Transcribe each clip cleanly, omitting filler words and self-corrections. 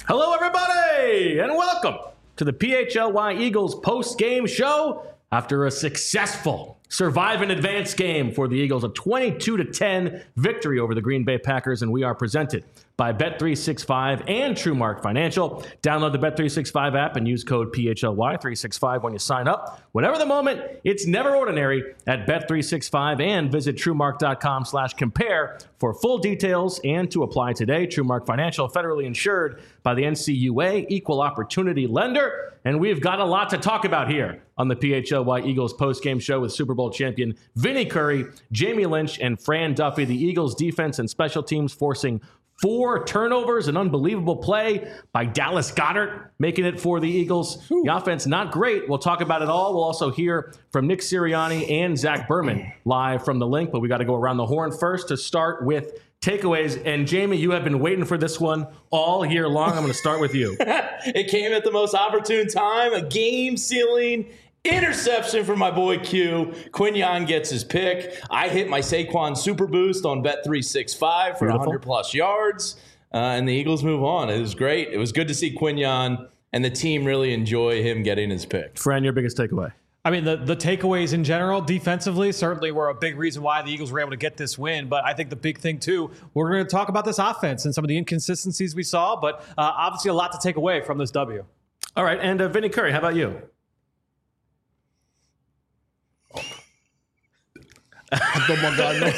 Hello, everybody, and welcome to the PHLY Eagles post-game show after a successful survive and advance game for the Eagles, a 22-10 victory over the Green Bay Packers, and we are presented by Bet365 and TrueMark Financial. Download the Bet365 app and use code PHLY365 when you sign up. Whatever the moment, it's never ordinary at Bet365, and visit TrueMark.com/compare for full details and to apply today. TrueMark Financial, federally insured by the NCUA, equal opportunity lender. And we've got a lot to talk about here on the PHLY Eagles postgame show with Super Bowl champion Vinny Curry, Jamie Lynch, and Fran Duffy. The Eagles defense and special teams forcing 4 turnovers, an unbelievable play by Dallas Goedert, making it for the Eagles. The offense, not great. We'll talk about it all. We'll also hear from Nick Sirianni and Zach Berman live from the link, but we got to go around the horn first to start with takeaways. And Jamie, you have been waiting for this one all year long. I'm going to start with you. It came at the most opportune time, a game-sealing interception from my boy Q. Quinyon gets his pick. I hit my Saquon super boost on Bet365 for 100-plus yards, and the Eagles move on. It was great. It was good to see Quinyon and the team really enjoy him getting his pick. Fran, your biggest takeaway? I mean, the takeaways in general, defensively, certainly were a big reason why the Eagles were able to get this win. But I think the big thing, too, we're going to talk about this offense and some of the inconsistencies we saw, but obviously a lot to take away from this W. All right, and Vinny Curry, how about you? Oh my God, no.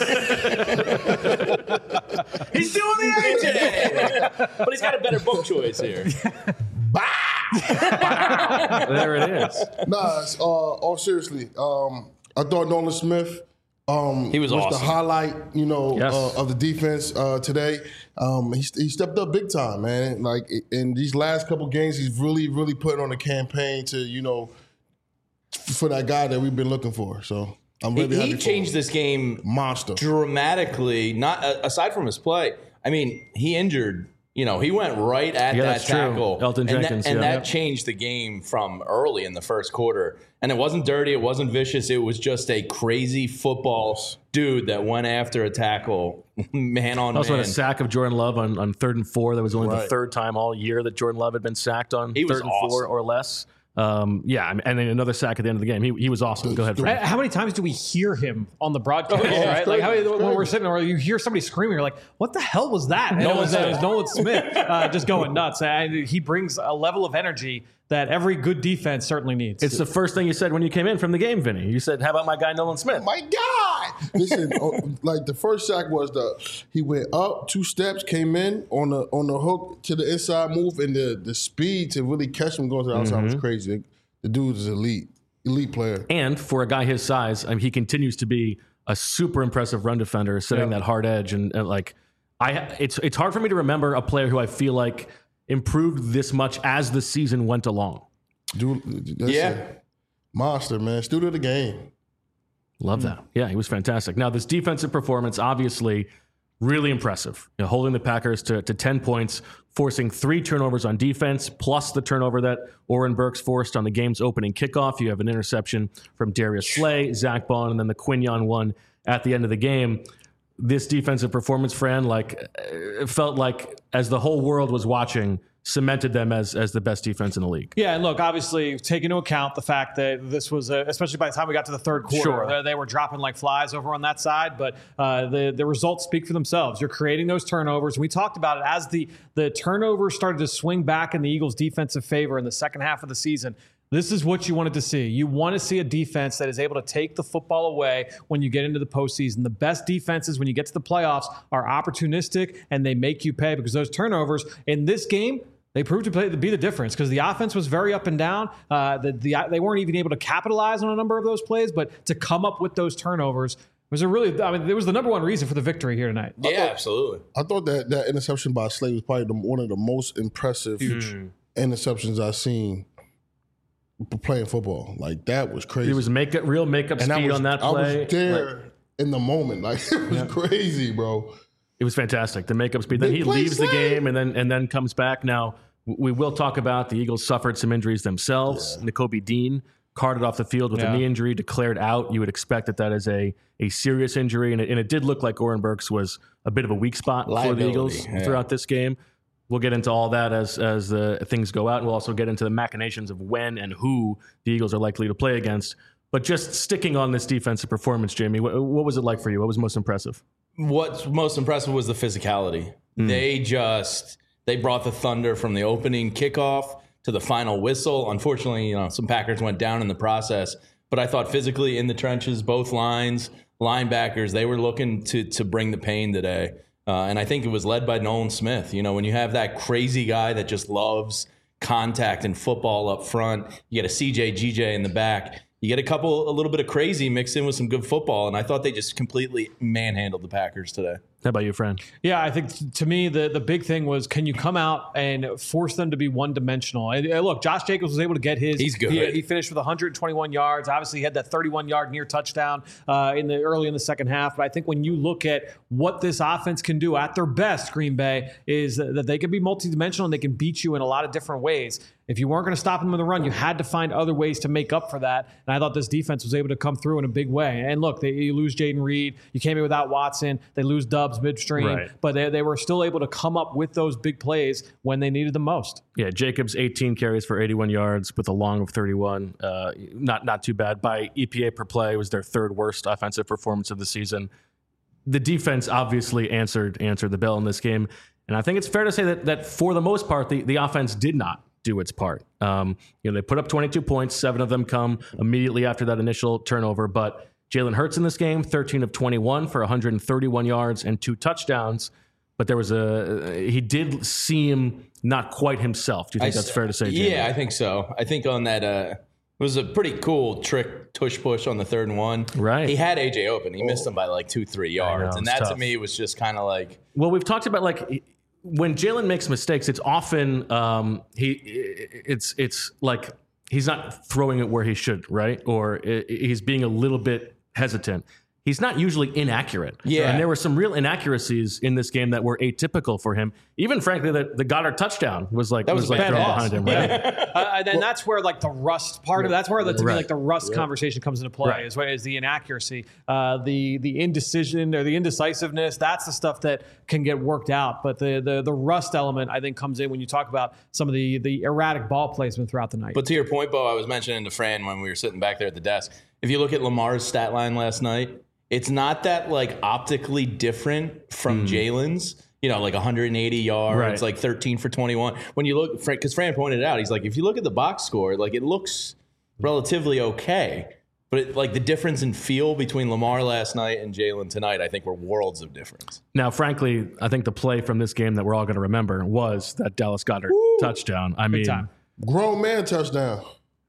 He's doing the AJ, but he's got a better book choice here. There it is. Nah, all seriously, I thought Nolan Smith He was awesome. the highlight, Yes. of the defense today. He stepped up big time, man. Like in these last couple games, he's really, really putting on a campaign to, for that guy that we've been looking for. So I'm really happy. He changed this game Monster. dramatically. Not aside from his play. I mean, he injured. He went right at that that's true. tackle. Elton Jenkins, and yeah. that changed the game from early in the first quarter. And it wasn't dirty. It wasn't vicious. It was just a crazy football dude that went after a tackle, man on man. Also had a sack of Jordan Love on 3rd and 4. That was only the Right. 3rd time all year that Jordan Love had been sacked on He was 3rd and 4 awesome. or less. And then another sack at the end of the game. He was awesome. Go ahead, Fran. How many times do we hear him on the broadcast? Right? Like when we're sitting there, you hear somebody screaming, you're like, "What the hell was that?" And it was Nolan Smith just going nuts. And he brings a level of energy that every good defense certainly needs. It's the first thing you said when you came in from the game, Vinny. You said, "How about my guy Nolan Smith?" My God! Listen, like the first sack was he went up 2 steps, came in on the hook to the inside move, and the speed to really catch him going to the outside was crazy. The dude is elite player. And for a guy his size, he continues to be a super impressive run defender, setting that hard edge. And it's hard for me to remember a player who I feel like improved this much as the season went along. Dude, monster, man. Student of the game. Love that. Yeah, he was fantastic. Now, this defensive performance, obviously, really impressive. Holding the Packers to 10 points, forcing 3 turnovers on defense, plus the turnover that Oren Burks forced on the game's opening kickoff. You have an interception from Darius Slay, Zach Bond, and then the Quinyon one at the end of the game. This defensive performance, Fran, it felt like as the whole world was watching, cemented them as the best defense in the league. Yeah, and look, obviously, take into account the fact that this was, especially by the time we got to the third quarter, they were dropping like flies over on that side, but the results speak for themselves. You're creating those turnovers, and we talked about it as the turnovers started to swing back in the Eagles' defensive favor in the second half of the season. This is what you wanted to see. You want to see a defense that is able to take the football away when you get into the postseason. The best defenses when you get to the playoffs are opportunistic, and they make you pay because those turnovers in this game, they proved to be the difference because the offense was very up and down. They weren't even able to capitalize on a number of those plays, but to come up with those turnovers was it was the number one reason for the victory here tonight. Yeah, absolutely. I thought that interception by Slay was probably one of the most impressive interceptions I've seen playing football. Like, that was crazy. It was real makeup speed on that play. I was there in the moment. Like, it was crazy, bro. It was fantastic. The makeup speed. Then he leaves the game and then comes back. Now, we will talk about the Eagles suffered some injuries themselves. Yeah. Nakobe Dean carted off the field with a knee injury, declared out. You would expect that is a serious injury, and it did look like Oren Burks was a bit of a weak spot for the Eagles throughout this game. We'll get into all that as things go out. And we'll also get into the machinations of when and who the Eagles are likely to play against. But just sticking on this defensive performance, Jamie, what was it like for you? What was most impressive? What's most impressive was the physicality. They brought the thunder from the opening kickoff to the final whistle. Unfortunately, some Packers went down in the process. But I thought physically in the trenches, both lines, linebackers, they were looking to bring the pain today. And I think it was led by Nolan Smith. When you have that crazy guy that just loves contact and football up front, you get a CJ, GJ in the back. You get a little bit of crazy mixed in with some good football, and I thought they just completely manhandled the Packers today. How about you, friend? Yeah, I think to me the big thing was, can you come out and force them to be one-dimensional? And look, Josh Jacobs was able to get his. He's good. He finished with 121 yards. Obviously, he had that 31-yard near touchdown early in the second half. But I think when you look at what this offense can do at their best, Green Bay, is that they can be multidimensional and they can beat you in a lot of different ways. If you weren't going to stop them in the run, you had to find other ways to make up for that. And I thought this defense was able to come through in a big way. And look, you lose Jaden Reed. You came in without Watson. They lose Dubs midstream. Right. But they were still able to come up with those big plays when they needed them most. Yeah, Jacobs, 18 carries for 81 yards with a long of 31. Not too bad. By EPA per play, it was their third worst offensive performance of the season. The defense obviously answered the bell in this game. And I think it's fair to say that for the most part, the offense did not do its part. They put up 22 points. 7 of them come immediately after that initial turnover. But Jalen Hurts in this game, 13 of 21 for 131 yards and 2 touchdowns. But he did seem not quite himself. Do you think that's fair to say, Jamie? Yeah, I think so. I think on that, it was a pretty cool trick tush push on the 3rd and 1. Right. He had AJ open. He missed him by 2-3 yards. And that tough. To me was just kind of like. Well, we've talked about when Jalen makes mistakes, it's often it's like he's not throwing it where he should, right? Or he's being a little bit hesitant. He's not usually inaccurate. Yeah. And there were some real inaccuracies in this game that were atypical for him. Even frankly, the Goddard touchdown was thrown behind him. Right? And that's where the rust part of that's where the rust conversation comes into play. Is the inaccuracy, the indecision or the indecisiveness. That's the stuff that can get worked out. But the rust element, I think, comes in when you talk about some of the erratic ball placement throughout the night. But to your point, Bo, I was mentioning to Fran when we were sitting back there at the desk. If you look at Lamar's stat line last night, it's not that optically different from Jalen's, 180 yards, 13 for 21. When you look, because Fran pointed it out, he's if you look at the box score, it looks relatively okay. But the difference in feel between Lamar last night and Jalen tonight, I think were worlds of difference. Now, frankly, I think the play from this game that we're all going to remember was that Dallas Goedert touchdown. I mean, grown man touchdown.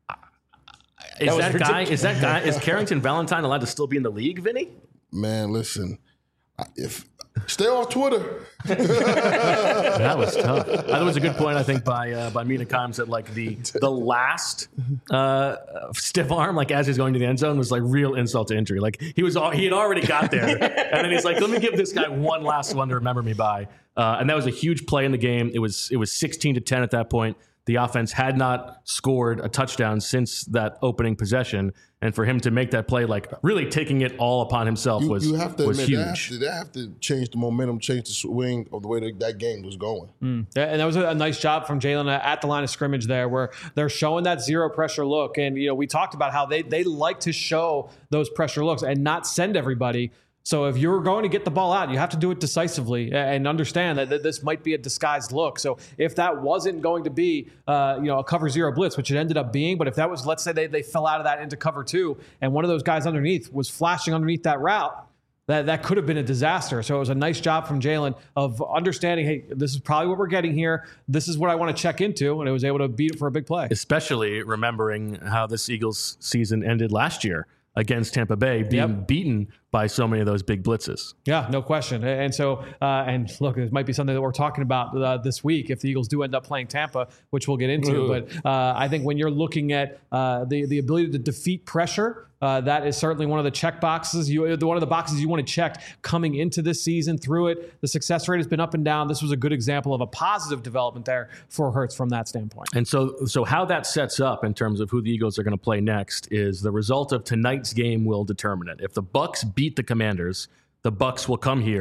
Is Carrington Valentine allowed to still be in the league, Vinny? Man, listen, stay off Twitter. That was tough. That was a good point, I think, by Mina Kimes that the last stiff arm, as he's going to the end zone, was real insult to injury. He had already got there, and then he's let me give this guy one last one to remember me by. And that was a huge play in the game. It was 16-10 at that point. The offense had not scored a touchdown since that opening possession. And for him to make that play, really taking it all upon himself was huge. You have to admit, they have to change the momentum, change the swing of the way that game was going. Yeah, and that was a nice job from Jalen at the line of scrimmage there, where they're showing that zero pressure look. And, we talked about how they like to show those pressure looks and not send everybody. So if you're going to get the ball out, you have to do it decisively and understand that this might be a disguised look. So if that wasn't going to be, a cover 0 blitz, which it ended up being, but if that was, let's say they fell out of that into cover 2 and one of those guys underneath was flashing underneath that route, that could have been a disaster. So it was a nice job from Jalen of understanding, hey, this is probably what we're getting here. This is what I want to check into, and it was able to beat it for a big play. Especially remembering how this Eagles season ended last year against Tampa Bay, being beaten by so many of those big blitzes. Yeah, no question. And so, and look, it might be something that we're talking about this week if the Eagles do end up playing Tampa, which we'll get into. But I think when you're looking at the ability to defeat pressure, that is certainly one of the check boxes. One of the boxes you want to check coming into this season. Through it, the success rate has been up and down. This was a good example of a positive development there for Hurts from that standpoint. And so how that sets up in terms of who the Eagles are going to play next is the result of tonight's game will determine it. If the Bucs beat the Commanders, the Bucs will come here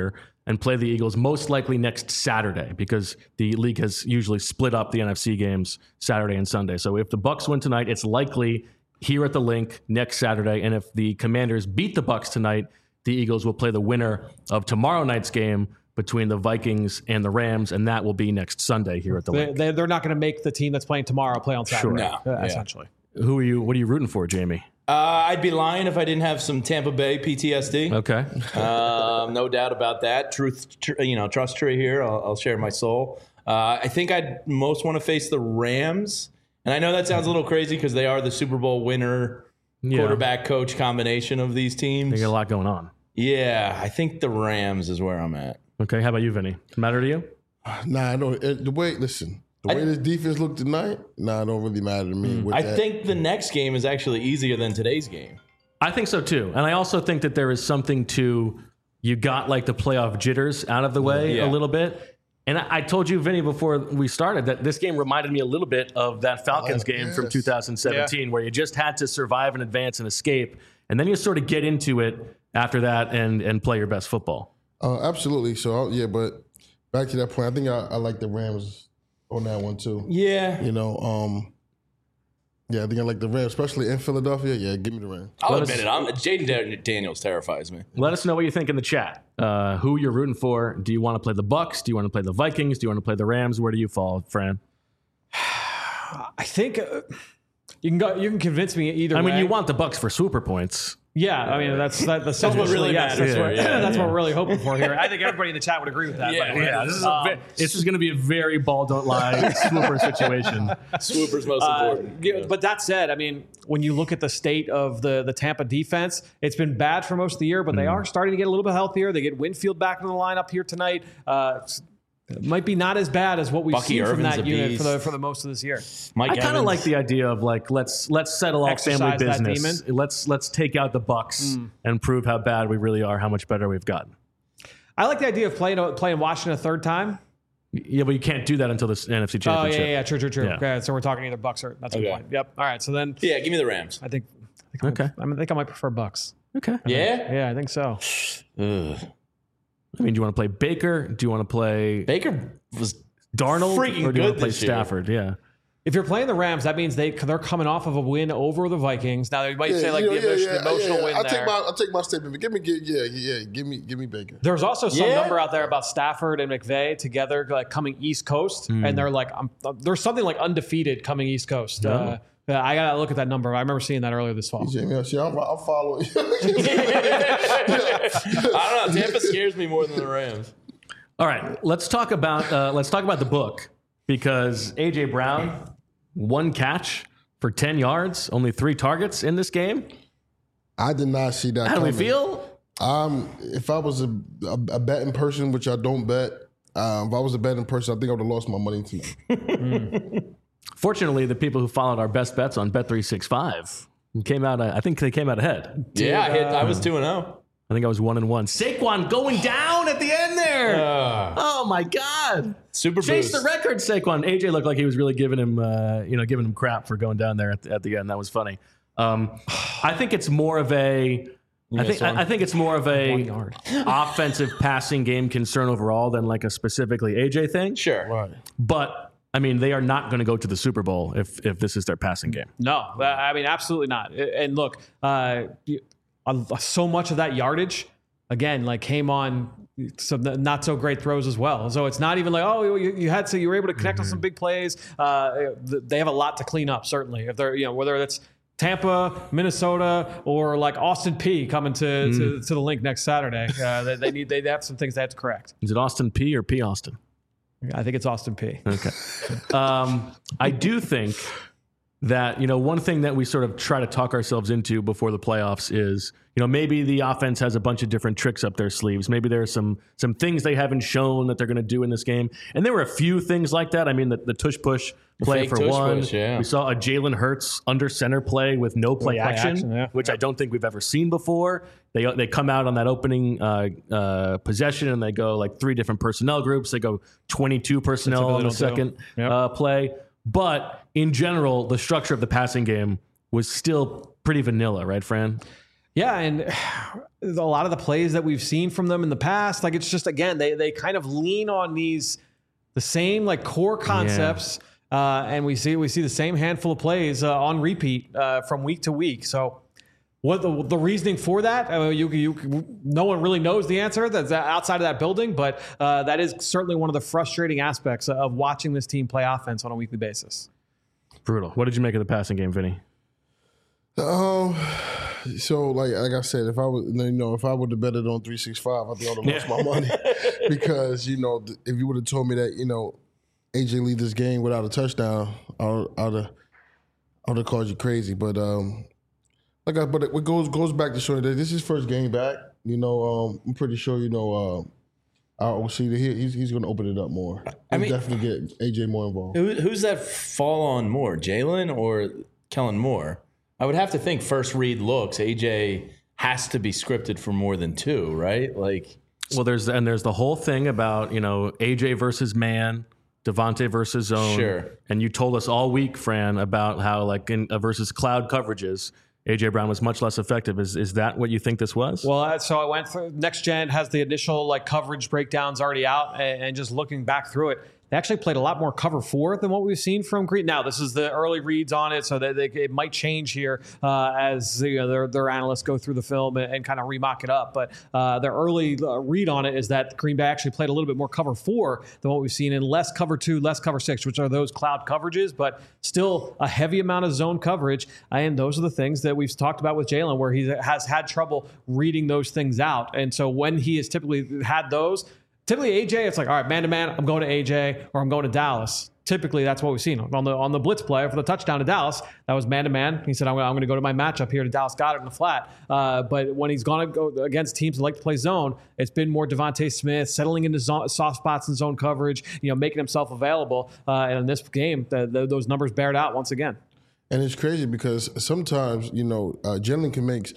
and play the Eagles most likely next Saturday, because the league has usually split up the NFC games Saturday and Sunday. So if the Bucs win tonight, it's likely here at the Link next Saturday. And if the Commanders beat the Bucs tonight, the Eagles will play the winner of tomorrow night's game between the Vikings and the Rams, and that will be next Sunday here at the Link. They're not going to make the team that's playing tomorrow play on Saturday. Sure. No. Essentially. What are you rooting for, Jamie? I'd be lying if I didn't have some Tampa Bay PTSD. Okay. No doubt about that. Trust tree here. I'll share my soul. I think I'd most want to face the Rams. And I know that sounds a little crazy because they are the Super Bowl winner quarterback coach combination of these teams. They got a lot going on. Yeah, I think the Rams is where I'm at. Okay, how about you, Vinny? Matter to you? Nah, I don't. The way this defense looked tonight, it don't really matter to me. I think the next game is actually easier than today's game. I think so too. And I also think that there is something to, you got like the playoff jitters out of the way a little bit. And I told you, Vinny, before we started, that this game reminded me a little bit of that Falcons game from 2017, where you just had to survive and advance and escape. And then you sort of get into it after that and play your best football. Absolutely. So, but back to that point, I think I like the Rams on that one too. Yeah. I think I like the Rams, especially in Philadelphia. Yeah, give me the Rams. I'll admit it. Jaden Daniels terrifies me. Let us know what you think in the chat. Who you're rooting for. Do you want to play the Bucs? Do you want to play the Vikings? Do you want to play the Rams? Where do you fall, Fran? I think you can convince me either way. I mean, you want the Bucs for super points. Yeah, I mean that's what really matters. That's what we're really hoping for here. I think everybody in the chat would agree with that. This is going to be a very ball don't lie swooper situation. Swooper's most important. But that said, I mean, when you look at the state of the Tampa defense, it's been bad for most of the year, but they are starting to get a little bit healthier. They get Winfield back in the lineup here tonight. It might be not as bad as what we've seen from that unit for the most of this year. I kind of like the idea of like let's settle all family business. Let's take out the Bucs and prove how bad we really are, how much better we've gotten. I like the idea of playing Washington a third time. Yeah, but you can't do that until the NFC Championship. Oh yeah, true. Yeah. Okay, so we're talking either Bucs or that's a good point. Yep. All right, so then give me the Rams. I think I might prefer Bucs. Okay. Yeah, I think so. I mean, do you want to play Baker? Do you want to play Baker? Was Darnold, freaking or do you want to play good Stafford? Yeah. If you're playing the Rams, that means they're coming off of a win over the Vikings. Now they might say the emotional win. I'll take my statement. Give me Baker. There's also some number out there about Stafford and McVay together, like coming East Coast, and they're like, there's something like undefeated coming East Coast. I gotta look at that number. I remember seeing that earlier this fall. I'll follow you. I don't know. Tampa scares me more than the Rams. All right, let's talk about the book, because AJ Brown, 1 catch for 10 yards, only 3 targets in this game. I did not see that. How do we feel? If I was a betting person, which I don't bet, if I was a betting person, I think I would have lost my money tonight. Fortunately, the people who followed our best bets on Bet365 came out. I think they came out ahead. Yeah, I was 2-0. I think I was 1-1. Saquon going down at the end there. Oh my God! Super chase boost. The record, Saquon. AJ looked like he was really giving him crap for going down there at the end. That was funny. I think it's more of a. I think it's more of a offensive passing game concern overall than like a specifically AJ thing. Sure, right. But I mean, they are not going to go to the Super Bowl if this is their passing game. No, I mean, absolutely not. And look, so much of that yardage, again, like came on some not so great throws as well. So it's not even like, you were able to connect on some big plays. They have a lot to clean up, certainly. If they're, whether it's Tampa, Minnesota, or like Austin P coming to the Link next Saturday, they have some things they have to correct. Is it Austin P or P Austin? I think it's Austin P. Okay. I do think that, one thing that we sort of try to talk ourselves into before the playoffs is, maybe the offense has a bunch of different tricks up their sleeves. Maybe there are some things they haven't shown that they're going to do in this game. And there were a few things like that. I mean, the tush push play for one. Push, yeah. We saw a Jalen Hurts under center play with no play action, which I don't think we've ever seen before. They come out on that opening possession and they go like 3 different personnel groups. They go 22 personnel on the second play. But in general, the structure of the passing game was still pretty vanilla, right, Fran? Yeah, and a lot of the plays that we've seen from them in the past, like it's just, again, they kind of lean on the same like core concepts, and we see the same handful of plays on repeat from week to week. So what the reasoning for that? No one really knows the answer that's outside of that building, but that is certainly one of the frustrating aspects of watching this team play offense on a weekly basis. Brutal. What did you make of the passing game, Vinny? So like I said, if I would have betted on 365, I think I would have lost my money because if you would have told me that AJ lead this game without a touchdown, I would have called you crazy. But but it goes back to showing that this is his first game back. I'm pretty sure I will see that he's going to open it up more. I mean, definitely get AJ more involved. Who's that fall on more, Jalen or Kellen Moore? I would have to think first read looks. AJ has to be scripted for more than two, right? Like, well, there's the whole thing about AJ versus man, Devontae versus zone. Sure. And you told us all week, Fran, about how like in versus cloud coverages, AJ Brown was much less effective. Is that what you think this was? Well, so I went through Next Gen has the initial like coverage breakdowns already out, and just looking back through it, they actually played a lot more cover 4 than what we've seen from Green. Now, this is the early reads on it, so that it might change here as their analysts go through the film and kind of remock it up. But their early read on it is that Green Bay actually played a little bit more cover 4 than what we've seen, and less cover 2, less cover 6, which are those cloud coverages, but still a heavy amount of zone coverage. And those are the things that we've talked about with Jalen, where he has had trouble reading those things out. And so when he has typically had those, typically AJ, it's like, all right, man-to-man, I'm going to AJ or I'm going to Dallas. Typically, that's what we've seen. On the blitz play for the touchdown to Dallas, that was man-to-man. He said, I'm going to go to my matchup here to Dallas Goedert in the flat. But when he's going to go against teams that like to play zone, it's been more Devontae Smith, settling into soft spots in zone coverage, making himself available. And in this game, those numbers bear it out once again. And it's crazy because sometimes, Jalen can make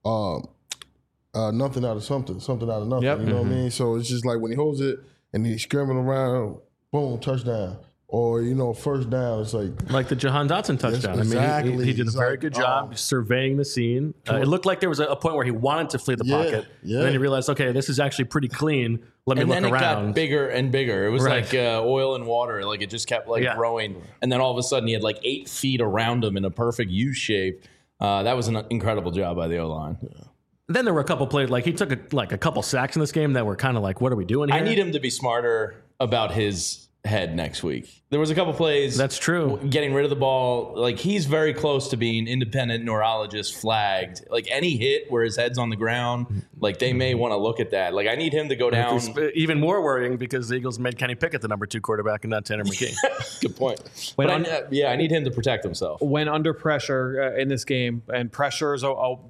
nothing out of something out of nothing. Yep. You know what I mean? So it's just like when he holds it and he's scrambling around, boom, touchdown. Or, first down, it's like the Jahan Dotson touchdown. Exactly. I mean, he did a very good job surveying the scene. It looked like there was a point where he wanted to flee the pocket. Yeah. And then he realized, okay, this is actually pretty clean. Let me look around. And then it got bigger and bigger. It was like oil and water. Like it just kept growing. And then all of a sudden he had like 8 feet around him in a perfect U shape. That was an incredible job by the O-line. Yeah. Then there were a couple plays, like he took a couple sacks in this game that were kind of like, what are we doing here? I need him to be smarter about his head next week. There was a couple plays. That's true. Getting rid of the ball. Like he's very close to being independent neurologist flagged. Like any hit where his head's on the ground, like they may want to look at that. Like I need him to go down. Even more worrying because the Eagles made Kenny Pickett the number 2 quarterback and not Tanner McKee. Good point. I need him to protect himself. When under pressure in this game, and pressure is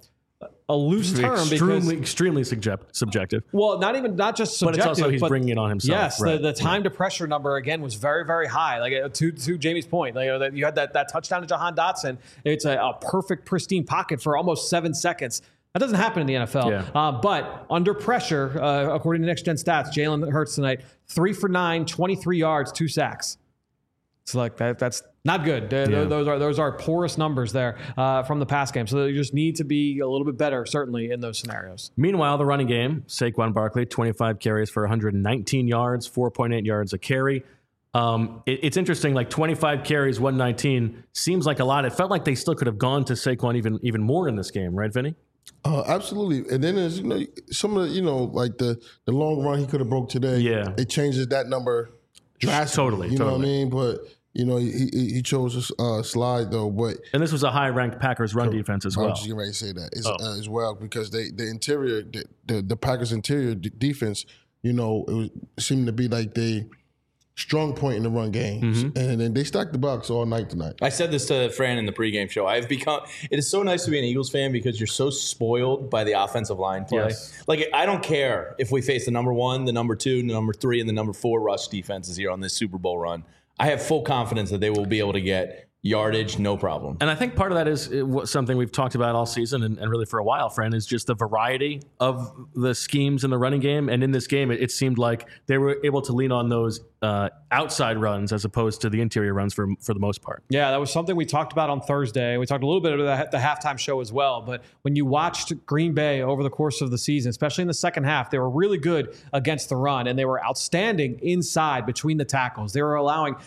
a loose term extremely subjective. Well, not just subjective, but it's also he's bringing it on himself. Yes, right. the time to pressure number again was very, very high. Like to Jamie's point, like you had that touchdown to Jahan Dotson. It's a perfect, pristine pocket for almost 7 seconds. That doesn't happen in the NFL. Yeah. But under pressure, according to Next Gen Stats, Jalen Hurts tonight 3 for 9, 23 yards, 2 sacks. It's like that's not good. Those are poorest numbers there from the pass game. So you just need to be a little bit better, certainly, in those scenarios. Meanwhile, the running game, Saquon Barkley, 25 carries for 119 yards, 4.8 yards a carry. It's interesting, like 25 carries, 119 seems like a lot. It felt like they still could have gone to Saquon even more in this game, right, Vinny? Absolutely. And then there's some of the, like the long run he could have broke today. Yeah, it changes that number drastically. Totally. You know what I mean? But he chose to slide though. But this was a high-ranked Packers run defense as well. I was just getting ready to say that as well because the interior, the Packers interior defense, it seemed to be like the strong point in the run game, and then they stacked the box all night tonight. I said this to Fran in the pregame show. It is so nice to be an Eagles fan because you're so spoiled by the offensive line play. Yes. Like I don't care if we face the number 1, the number 2, the number 3, and the number 4 rush defenses here on this Super Bowl run. I have full confidence that they will be able to get yardage, no problem. And I think part of that is something we've talked about all season and really for a while, friend, is just the variety of the schemes in the running game. And in this game, it seemed like they were able to lean on those outside runs as opposed to the interior runs for the most part. Yeah, that was something we talked about on Thursday. We talked a little bit about the halftime show as well. But when you watched Green Bay over the course of the season, especially in the second half, they were really good against the run, and they were outstanding inside between the tackles. They were allowing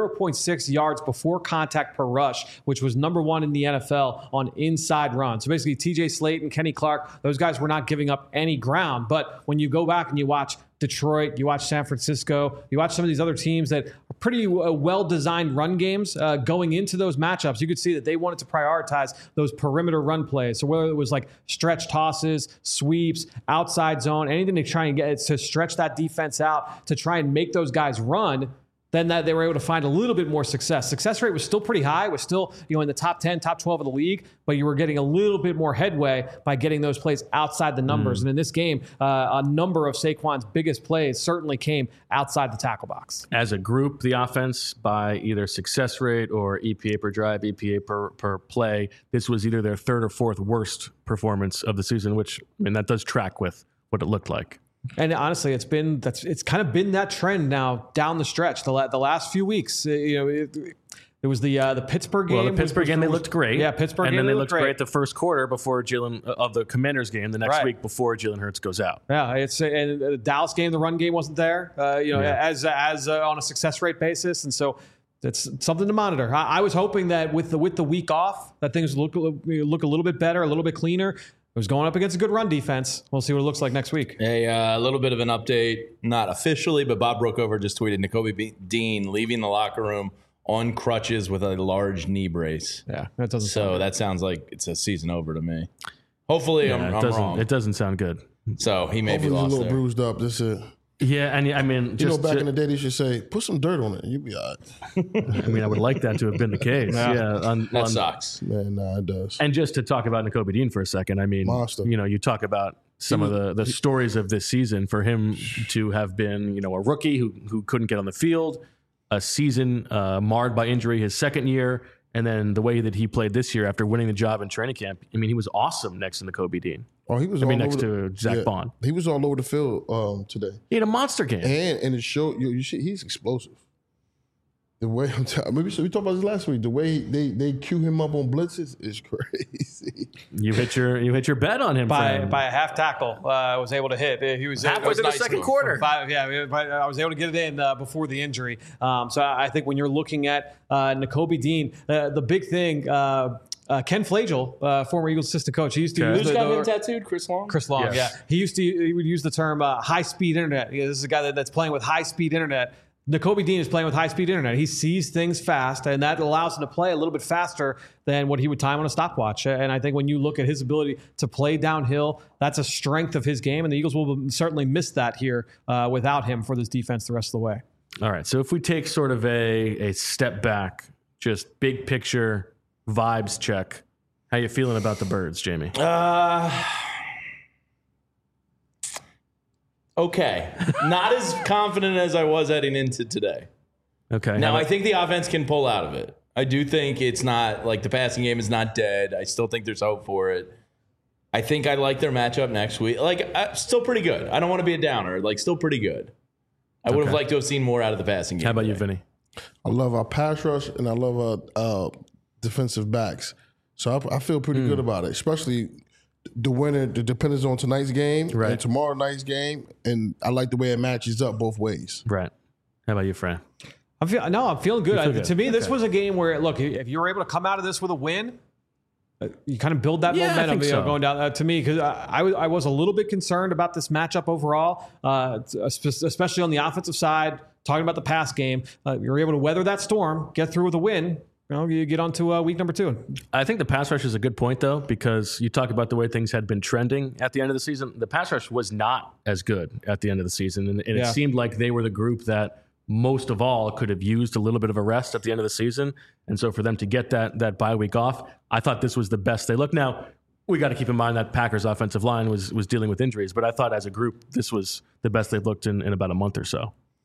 0.6 yards before contact per rush, which was number one in the NFL on inside runs. So basically, TJ Slayton, Kenny Clark, those guys were not giving up any ground. But when you go back and you watch Detroit, you watch San Francisco, you watch some of these other teams that are pretty well-designed run games going into those matchups, you could see that they wanted to prioritize those perimeter run plays. So whether it was like stretch tosses, sweeps, outside zone, anything to try and get to stretch that defense out, to try and make those guys run, then that they were able to find a little bit more success. Success rate was still pretty high, was still in the top 10, top 12 of the league, but you were getting a little bit more headway by getting those plays outside the numbers. And in this game, a number of Saquon's biggest plays certainly came outside the tackle box. As a group, the offense, by either success rate or EPA per drive, EPA per play, this was either their third or fourth worst performance of the season, which, that does track with what it looked like. And honestly, it's kind of been that trend now down the stretch. The last few weeks, it was the Pittsburgh game. Well, the Pittsburgh game, they looked great. Yeah, Pittsburgh game, game, and then they looked great the first quarter before of the Commanders game the next week before Jalen Hurts goes out. Yeah, and the Dallas game, the run game wasn't there. As on a success rate basis, and so it's something to monitor. I was hoping that with the week off, that things look a little bit better, a little bit cleaner. It was going up against a good run defense. We'll see what it looks like next week. A little bit of an update, not officially, but Bob Brookover just tweeted Nakobe Dean leaving the locker room on crutches with a large knee brace. Yeah, that doesn't. So that sounds like it's a season over to me. Hopefully, I'm wrong. It doesn't sound good. So he may be lost. A little there. bruised up. That's it. Yeah, and back in the day, they should say, put some dirt on it. You'll be all right. I would like that to have been the case. That sucks. Man, it does. And just to talk about Nakobe Dean for a second, Monster. You talk about some of the stories of this season. For him to have been, a rookie who couldn't get on the field, a season marred by injury his second year, and then the way that he played this year after winning the job in training camp. He was awesome next to Nakobe Dean. Oh, he was. Next to Zach Bond. He was all over the field today. He had a monster game, and it showed. He's explosive. The way we talked about this last week. The way they cue him up on blitzes is crazy. You hit your bet on him by a half tackle. I was able to hit. He was halfway through the second quarter. I was able to get it in before the injury. So I think when you're looking at Nakobe Dean, the big thing. Ken Flagel, former Eagles assistant coach, he used to use who's got him tattooed? Chris Long. Chris Long, yes. Yeah. He would use the term high-speed internet. This is a guy that's playing with high-speed internet. Nakobe Dean is playing with high-speed internet. He sees things fast, and that allows him to play a little bit faster than what he would time on a stopwatch. And I think when you look at his ability to play downhill, that's a strength of his game, and the Eagles will certainly miss that here without him for this defense the rest of the way. All right, so if we take sort of a step back, just big picture vibes check, how you feeling about the Birds, Jamie? Okay. Not as confident as I was heading into today. Okay. Now, I think the offense can pull out of it. I do think it's not, like, the passing game is not dead. I still think there's hope for it. I think I like their matchup next week. Still pretty good. I don't want to be a downer. Still pretty good. I would have liked to have seen more out of the passing game. How about you, Vinny? I love our pass rush, and I love our defensive backs. So I feel pretty good about it, especially the winner, the dependence on tonight's game and tomorrow night's game. And I like the way it matches up both ways. Right. How about you, Fran? I'm feeling good. To me, this was a game where, look, if you were able to come out of this with a win, you kind of build that momentum going down. To me, because I was a little bit concerned about this matchup overall, especially on the offensive side, talking about the pass game. You're able to weather that storm, get through with a win. You get on to week number 2. I think the pass rush is a good point, though, because you talk about the way things had been trending at the end of the season. The pass rush was not as good at the end of the season, and it seemed like they were the group that most of all could have used a little bit of a rest at the end of the season. And so for them to get that bye week off, I thought this was the best they looked. Now, we got to keep in mind that Packers offensive line was dealing with injuries, but I thought as a group, this was the best they've looked in about a month or so.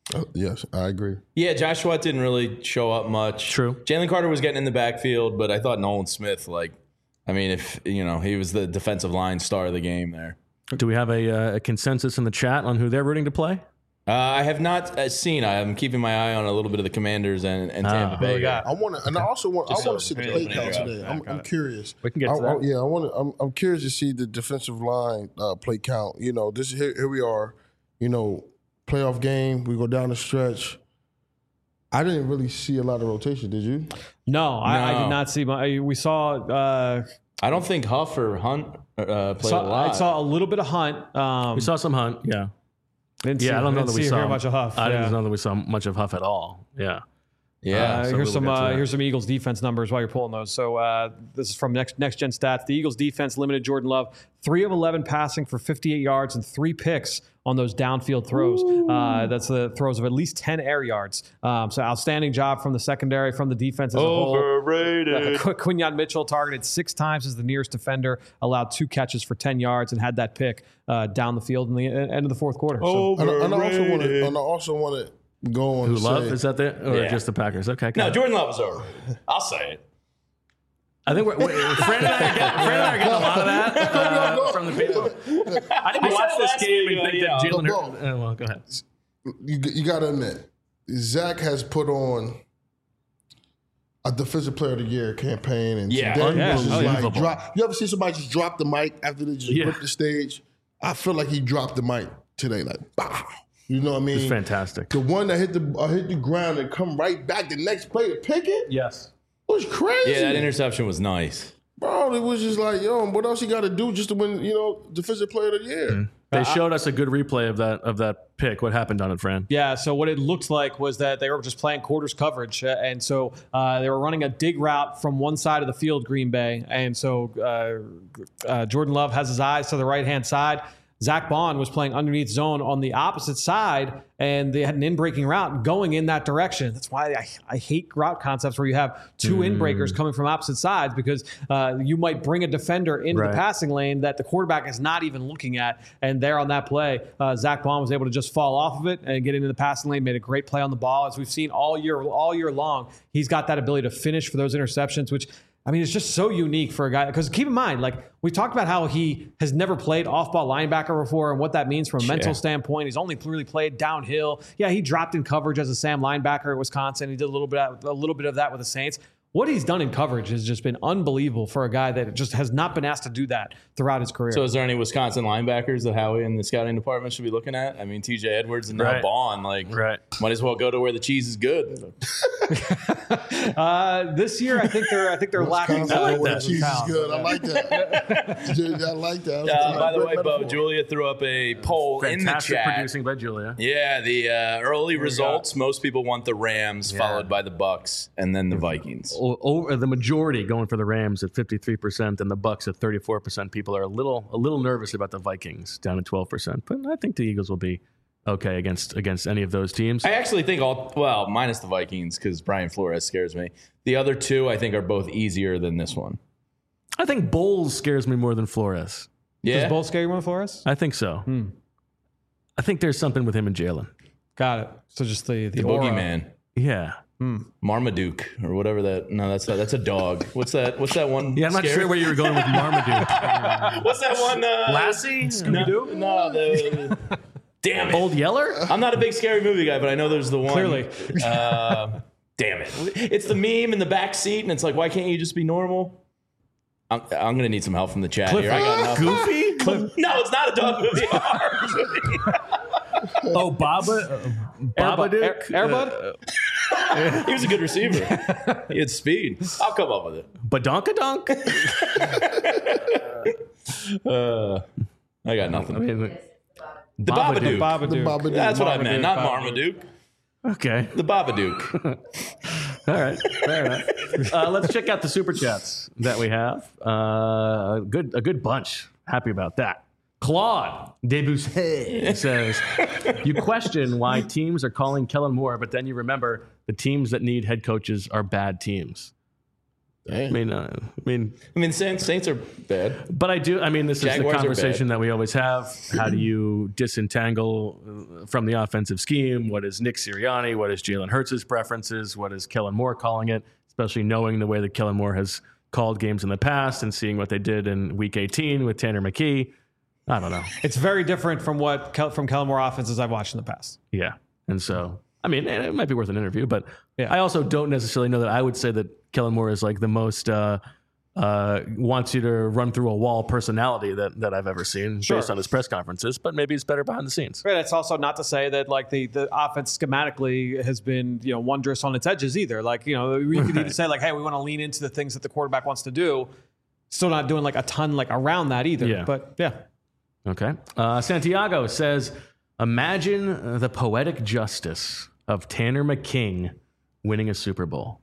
Yes, I agree. Yeah, Josh Sweat didn't really show up much. True. Jalen Carter was getting in the backfield, but I thought Nolan Smith, if he was the defensive line star of the game there. Do we have a consensus in the chat on who they're rooting to play? I have not seen. I'm keeping my eye on a little bit of the Commanders and Tampa Bay. I want to, and I also want. I want to see the play count today. I'm curious. We can get to that. Yeah, I want to. I'm curious to see the defensive line play count. This here we are. Playoff game. We go down the stretch. I didn't really see a lot of rotation. Did you? No, I did not see. We saw. I don't think Huff or Hunt played a lot. I saw a little bit of Hunt. We saw some Hunt. Yeah. I don't know that we saw much of Huff. I didn't know that we saw much of Huff at all. Yeah. Yeah. So here's some Eagles defense numbers while you're pulling those. So this is from Next Gen Stats. The Eagles defense limited Jordan Love 3 of 11 passing for 58 yards and 3 picks on those downfield throws. That's the throws of at least 10 air yards. So outstanding job from the secondary, from the defense as a whole. Overrated. Quinyon Mitchell targeted 6 times as the nearest defender, allowed 2 catches for 10 yards, and had that pick down the field in the end of the fourth quarter. And I also want to go on. Who Love? Is that it? Or just the Packers? Okay. No, Jordan Love was over. I'll say it. I think Fran and I are getting a lot of that from the people. I didn't watch this game and think that Jalen Hurts. Well, go ahead. You got to admit, Zach has put on a Defensive Player of the Year campaign, and today was just drop. You ever see somebody just drop the mic after they just rip the stage? I feel like he dropped the mic today, bah. You know what I mean? It's fantastic. The one that hit the ground and come right back the next play to pick it. Yes. Was crazy. Yeah, that interception was nice. Bro, it was just like, what else you got to do just to win, Defensive Player of the Year? Mm-hmm. They showed us a good replay of that pick. What happened on it, Fran? Yeah, so what it looked like was that they were just playing quarters coverage. And so they were running a dig route from one side of the field, Green Bay. And so Jordan Love has his eyes to the right-hand side. Zach Bond was playing underneath zone on the opposite side, and they had an in-breaking route going in that direction. That's why I hate route concepts where you have 2 in-breakers coming from opposite sides, because you might bring a defender into the passing lane that the quarterback is not even looking at. And there on that play, Zach Bond was able to just fall off of it and get into the passing lane, made a great play on the ball. As we've seen all year long, he's got that ability to finish for those interceptions, which – it's just so unique for a guy. Because keep in mind, we talked about how he has never played off-ball linebacker before and what that means from a mental standpoint. He's only really played downhill. Yeah, he dropped in coverage as a Sam linebacker at Wisconsin. He did a little bit of that with the Saints. What he's done in coverage has just been unbelievable for a guy that just has not been asked to do that throughout his career. So is there any Wisconsin linebackers that Howie and the scouting department should be looking at? TJ Edwards and now Bond, might as well go to where the cheese is good. This year, I think they're lacking. I like that. Cheese is good. I like that. I like that. By the way, Bo, Julia threw up a poll in the chat. Producing by Julia. Yeah, the early results. Most people want the Rams, followed by the Bucks, and then the Vikings. The majority going for the Rams at 53% and the Bucks at 34%. People are a little nervous about the Vikings down at 12%, but I think the Eagles will be okay against any of those teams. I actually think minus the Vikings, because Brian Flores scares me. The other 2 I think are both easier than this one. I think Bowles scares me more than Flores. Yeah, does Bowles scare you more than Flores? I think so. I think there's something with him and Jalen. Got it. So just the boogeyman. Yeah. Marmaduke or whatever that. No, that's a dog. What's that one? Yeah, I'm not sure where you were going with Marmaduke. What's that one? Lassie? Scooby-Doo? No, damn it. Old Yeller? I'm not a big scary movie guy, but I know there's the one. Clearly. Damn it. It's the meme in the back seat, and it's like, why can't you just be normal? I'm going to need some help from the chat here. I got nothing. Goofy? No, it's not a dog movie. Oh, Babadook? Airbud? He was a good receiver. He had speed. I'll come up with it. Badonkadonk? I got nothing. The Babadook. Babadook. That's what I meant, not Marmaduke. Okay. The Babadook. All right. Fair enough. Let's check out the Super Chats that we have. A good bunch. Happy about that. Claude Debussy says, you question why teams are calling Kellen Moore, but then you remember the teams that need head coaches are bad teams. I mean, Saints are bad. But I do. I mean, this Jaguars is the conversation that we always have. How do you disentangle from the offensive scheme? What is Nick Sirianni? What is Jalen Hurts' preferences? What is Kellen Moore calling it? Especially knowing the way that Kellen Moore has called games in the past and seeing what they did in Week 18 with Tanner McKee. I don't know. It's very different from from Kellen Moore offenses I've watched in the past. Yeah, and so I mean, it might be worth an interview, but I also don't necessarily know that I would say that Kellen Moore is like the most wants you to run through a wall personality that I've ever seen based on his press conferences, but maybe it's better behind the scenes. Right. It's also not to say that like the offense schematically has been, wondrous on its edges either. Like, we could even say like, hey, we want to lean into the things that the quarterback wants to do. Still not doing like a ton like around that either. Yeah. But yeah. Okay. Santiago says, imagine the poetic justice of Tanner McKing winning a Super Bowl.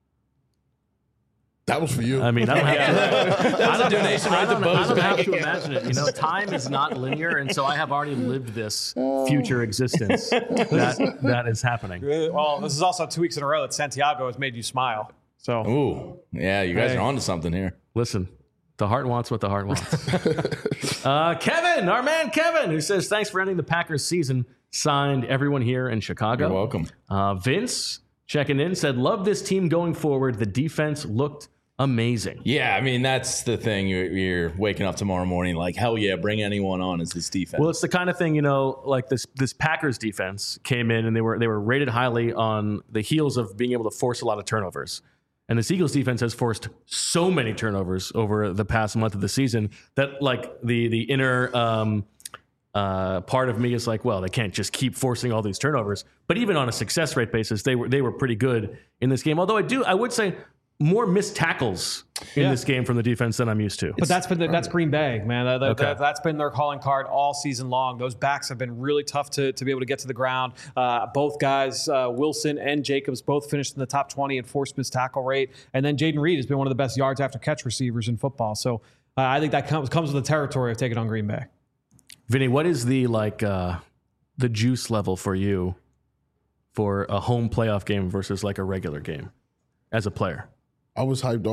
That was for you. I mean, I don't have to. That's a donation right to Bo's I don't have bank to account. imagine it. Time is not linear, and so I have already lived this future existence that is happening. Well, this is also 2 weeks in a row that Santiago has made you smile. So, Ooh, yeah, you guys are onto something here. Listen, the heart wants what the heart wants. Kevin, our man Kevin, who says, thanks for ending the Packers season. Signed, everyone here in Chicago. You're welcome. Vince, checking in, said, love this team going forward. The defense looked amazing. Yeah, I mean, that's the thing. You're waking up tomorrow morning like, hell yeah, bring anyone on as this defense. Well, it's the kind of thing, like this Packers defense came in and they were rated highly on the heels of being able to force a lot of turnovers. And the Eagles defense has forced so many turnovers over the past month of the season that like the inner part of me is like, well, they can't just keep forcing all these turnovers. But even on a success rate basis, they were pretty good in this game. Although I would say more missed tackles in this game from the defense than I'm used to. But that's Green Bay, man. That's been their calling card all season long. Those backs have been really tough to be able to get to the ground. Both guys, Wilson and Jacobs, both finished in the top 20 in forced missed tackle rate. And then Jaden Reed has been one of the best yards after catch receivers in football. So I think that comes with the territory of taking on Green Bay. Vinny, what is the juice level for you for a home playoff game versus like a regular game as a player? I was hyped.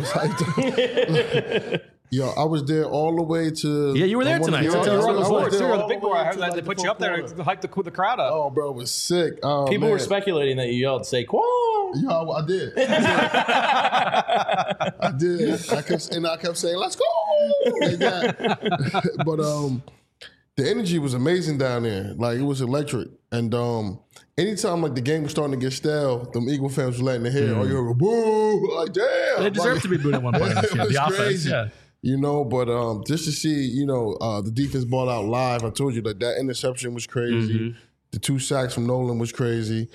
Yo, I was there all the way to. Yeah, you were there tonight. You were on the board too. all The big the way boy. I heard to, that they put you up there to hype the crowd up. Oh, bro, it was sick. Oh, People man. were speculating that you yelled Saquon. Yeah, I did. I did. I kept saying, "Let's go!" Like that. But the energy was amazing down there. Like, it was electric. And anytime like the game was starting to get stale, them Eagle fans were letting their hair. Oh, you heard boo! Like, damn. They deserve to be booed at one point. It was the offense, crazy. yeah. But just to see, the defense ball out live. I told you that interception was crazy. Mm-hmm. The 2 sacks from Nolan was crazy.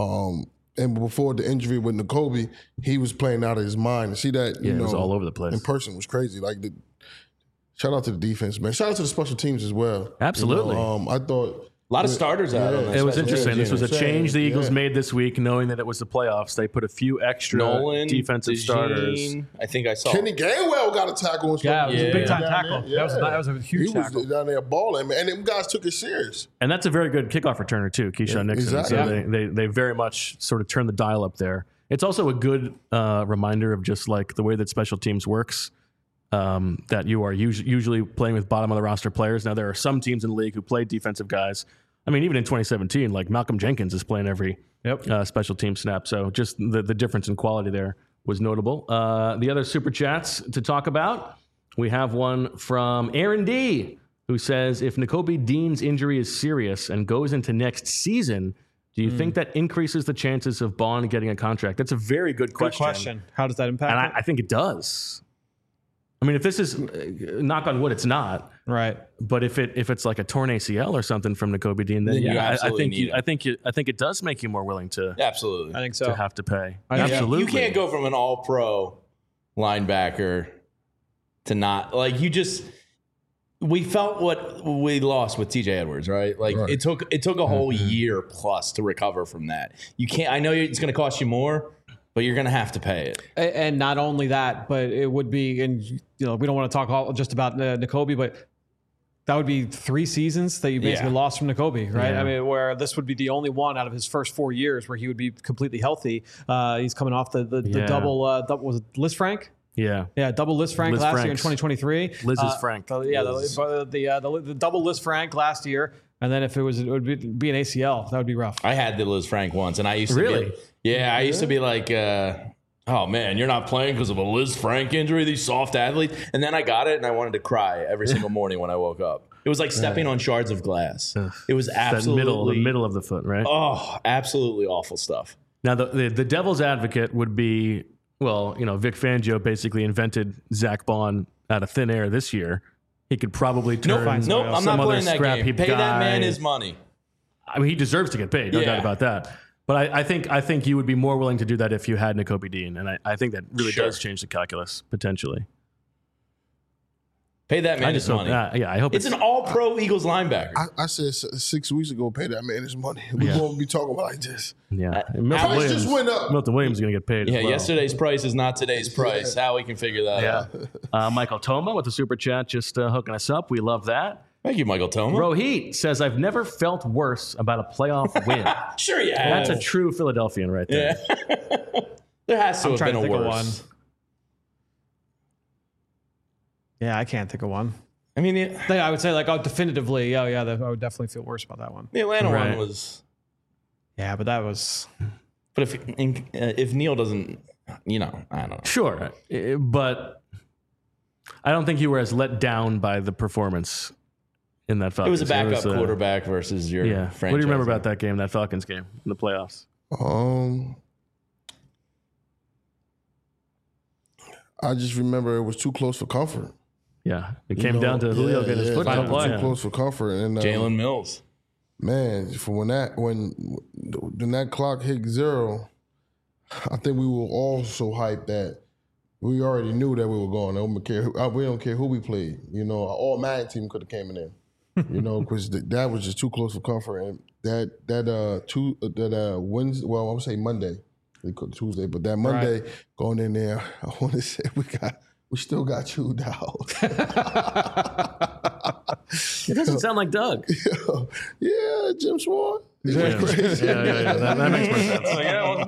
And before the injury with Nakobe, he was playing out of his mind. To see that, it was all over the place. In person was crazy. Like, shout out to the defense, man. Shout out to the special teams as well. Absolutely. I thought A lot of starters out on that. It was special interesting. teams. This was a change the Eagles made this week, knowing that it was the playoffs. They put a few extra Nolan, defensive DeJean, starters. I think I saw. Kenny Gainwell got a tackle. And Yeah, it was a big time down tackle. there. That was a huge he tackle. was down there balling, man. And them guys took it serious. And that's a very good kickoff returner, too, Keyshawn Nixon. Exactly. So they very much sort of turned the dial up there. It's also a good reminder of just like the way that special teams works, that you are usually playing with bottom of the roster players. Now, there are some teams in the league who play defensive guys. I mean, even in 2017, like Malcolm Jenkins is playing every special team snap. So just the difference in quality there was notable. The other super chats to talk about, we have one from Aaron D., who says, if Nakobe Dean's injury is serious and goes into next season, do you think that increases the chances of Bond getting a contract? That's a very good question. Good question. How does that impact And I think it does. I mean, if this is, knock on wood, it's not. Right. But if it's like a torn ACL or something from Nakobe Dean, then You I absolutely think it does make you more willing to Absolutely. I think so. to have to pay. Absolutely. You can't go from an all-pro linebacker to not, like, you just, we felt what we lost with TJ Edwards, right? Like, it took a whole year plus to recover from that. You can't, I know it's going to cost you more, but you're going to have to pay it. And not only that, but it would be, and we don't want to talk just about Nakobe, but That would be 3 seasons that you basically lost from Nakobe, right? Yeah. I mean, where this would be the only one out of his first 4 years where he would be completely healthy. He's coming off the double, was it Liz Frank? Yeah. Yeah, double Liz Frank Liz last year in Frank's. 2023. Liz's Frank. The double Liz Frank last year. And then if it would be an ACL, that would be rough. I had the Liz Frank once, and I used to Really? I used to be like, oh man, you're not playing because of a Liz Frank injury, these soft athletes. And then I got it, and I wanted to cry every single morning when I woke up. It was like stepping on shards of glass. It was absolutely the middle of the foot, right? Oh, absolutely awful stuff. Now, the devil's advocate would be, well, Vic Fangio basically invented Zach Bond out of thin air this year. He could probably turn Nope, I'm some not other playing that scrap game. heap Pay guy. that man his money. I mean, he deserves to get paid, no Yeah. doubt about that. But I think you would be more willing to do that if you had Nakobe Dean, and I think that really Sure. does change the calculus potentially. Pay that man his money. I hope It's an all-pro Eagles linebacker. I said 6 weeks ago, pay that man his money. We're going to be talking about like this. Yeah. Price just went up. Milton Williams is going to get paid. Yeah, as well. yesterday's price is not today's price. How we can figure that out. Michael Toma with the super chat just hooking us up. We love that. Thank you, Michael Toma. Rohit says, I've never felt worse about a playoff win. Sure you have. That's a true Philadelphian right there. There has to have trying been to a think of worse. one. Yeah, I can't think of one. I mean, I would say definitively, I would definitely feel worse about that one. the Atlanta Right. one was. Yeah, but that was. But if Neil doesn't, I don't know. Sure. But I don't think you were as let down by the performance in that Falcons. It was a backup quarterback versus your franchise. What do you remember about that game, that Falcons game in the playoffs? I just remember it was too close for comfort. Yeah. It came down to Julio getting his foot final down. play. Too close for comfort. And Jalen Mills. man, for when that clock hit 0, I think we were all so hyped that we already knew that we were going. We don't care who we played. All Madden team could have came in there. Because that was just too close for comfort. And that Wednesday, well, I would say Monday, they could Tuesday, but that Monday going in there, I want to say we still got chewed out. It doesn't sound like Doug. Yeah, Jim Swan. Yeah. That makes more sense. Yeah,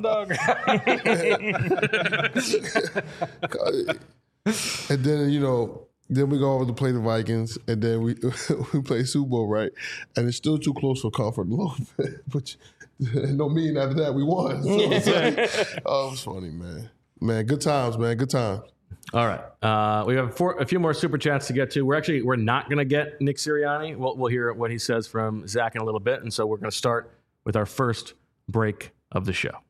it wasn't Doug. And then, then we go over to play the Vikings, and then we play Super Bowl, right? And it's still too close for comfort a little bit. But no meaning after that, we won. So it's like, oh, it was funny, man. Man, good times, man. Good times. All right. We have a few more super chats to get to. We're not going to get Nick Sirianni. We'll hear what he says from Zach in a little bit. And so we're going to start with our first break of the show.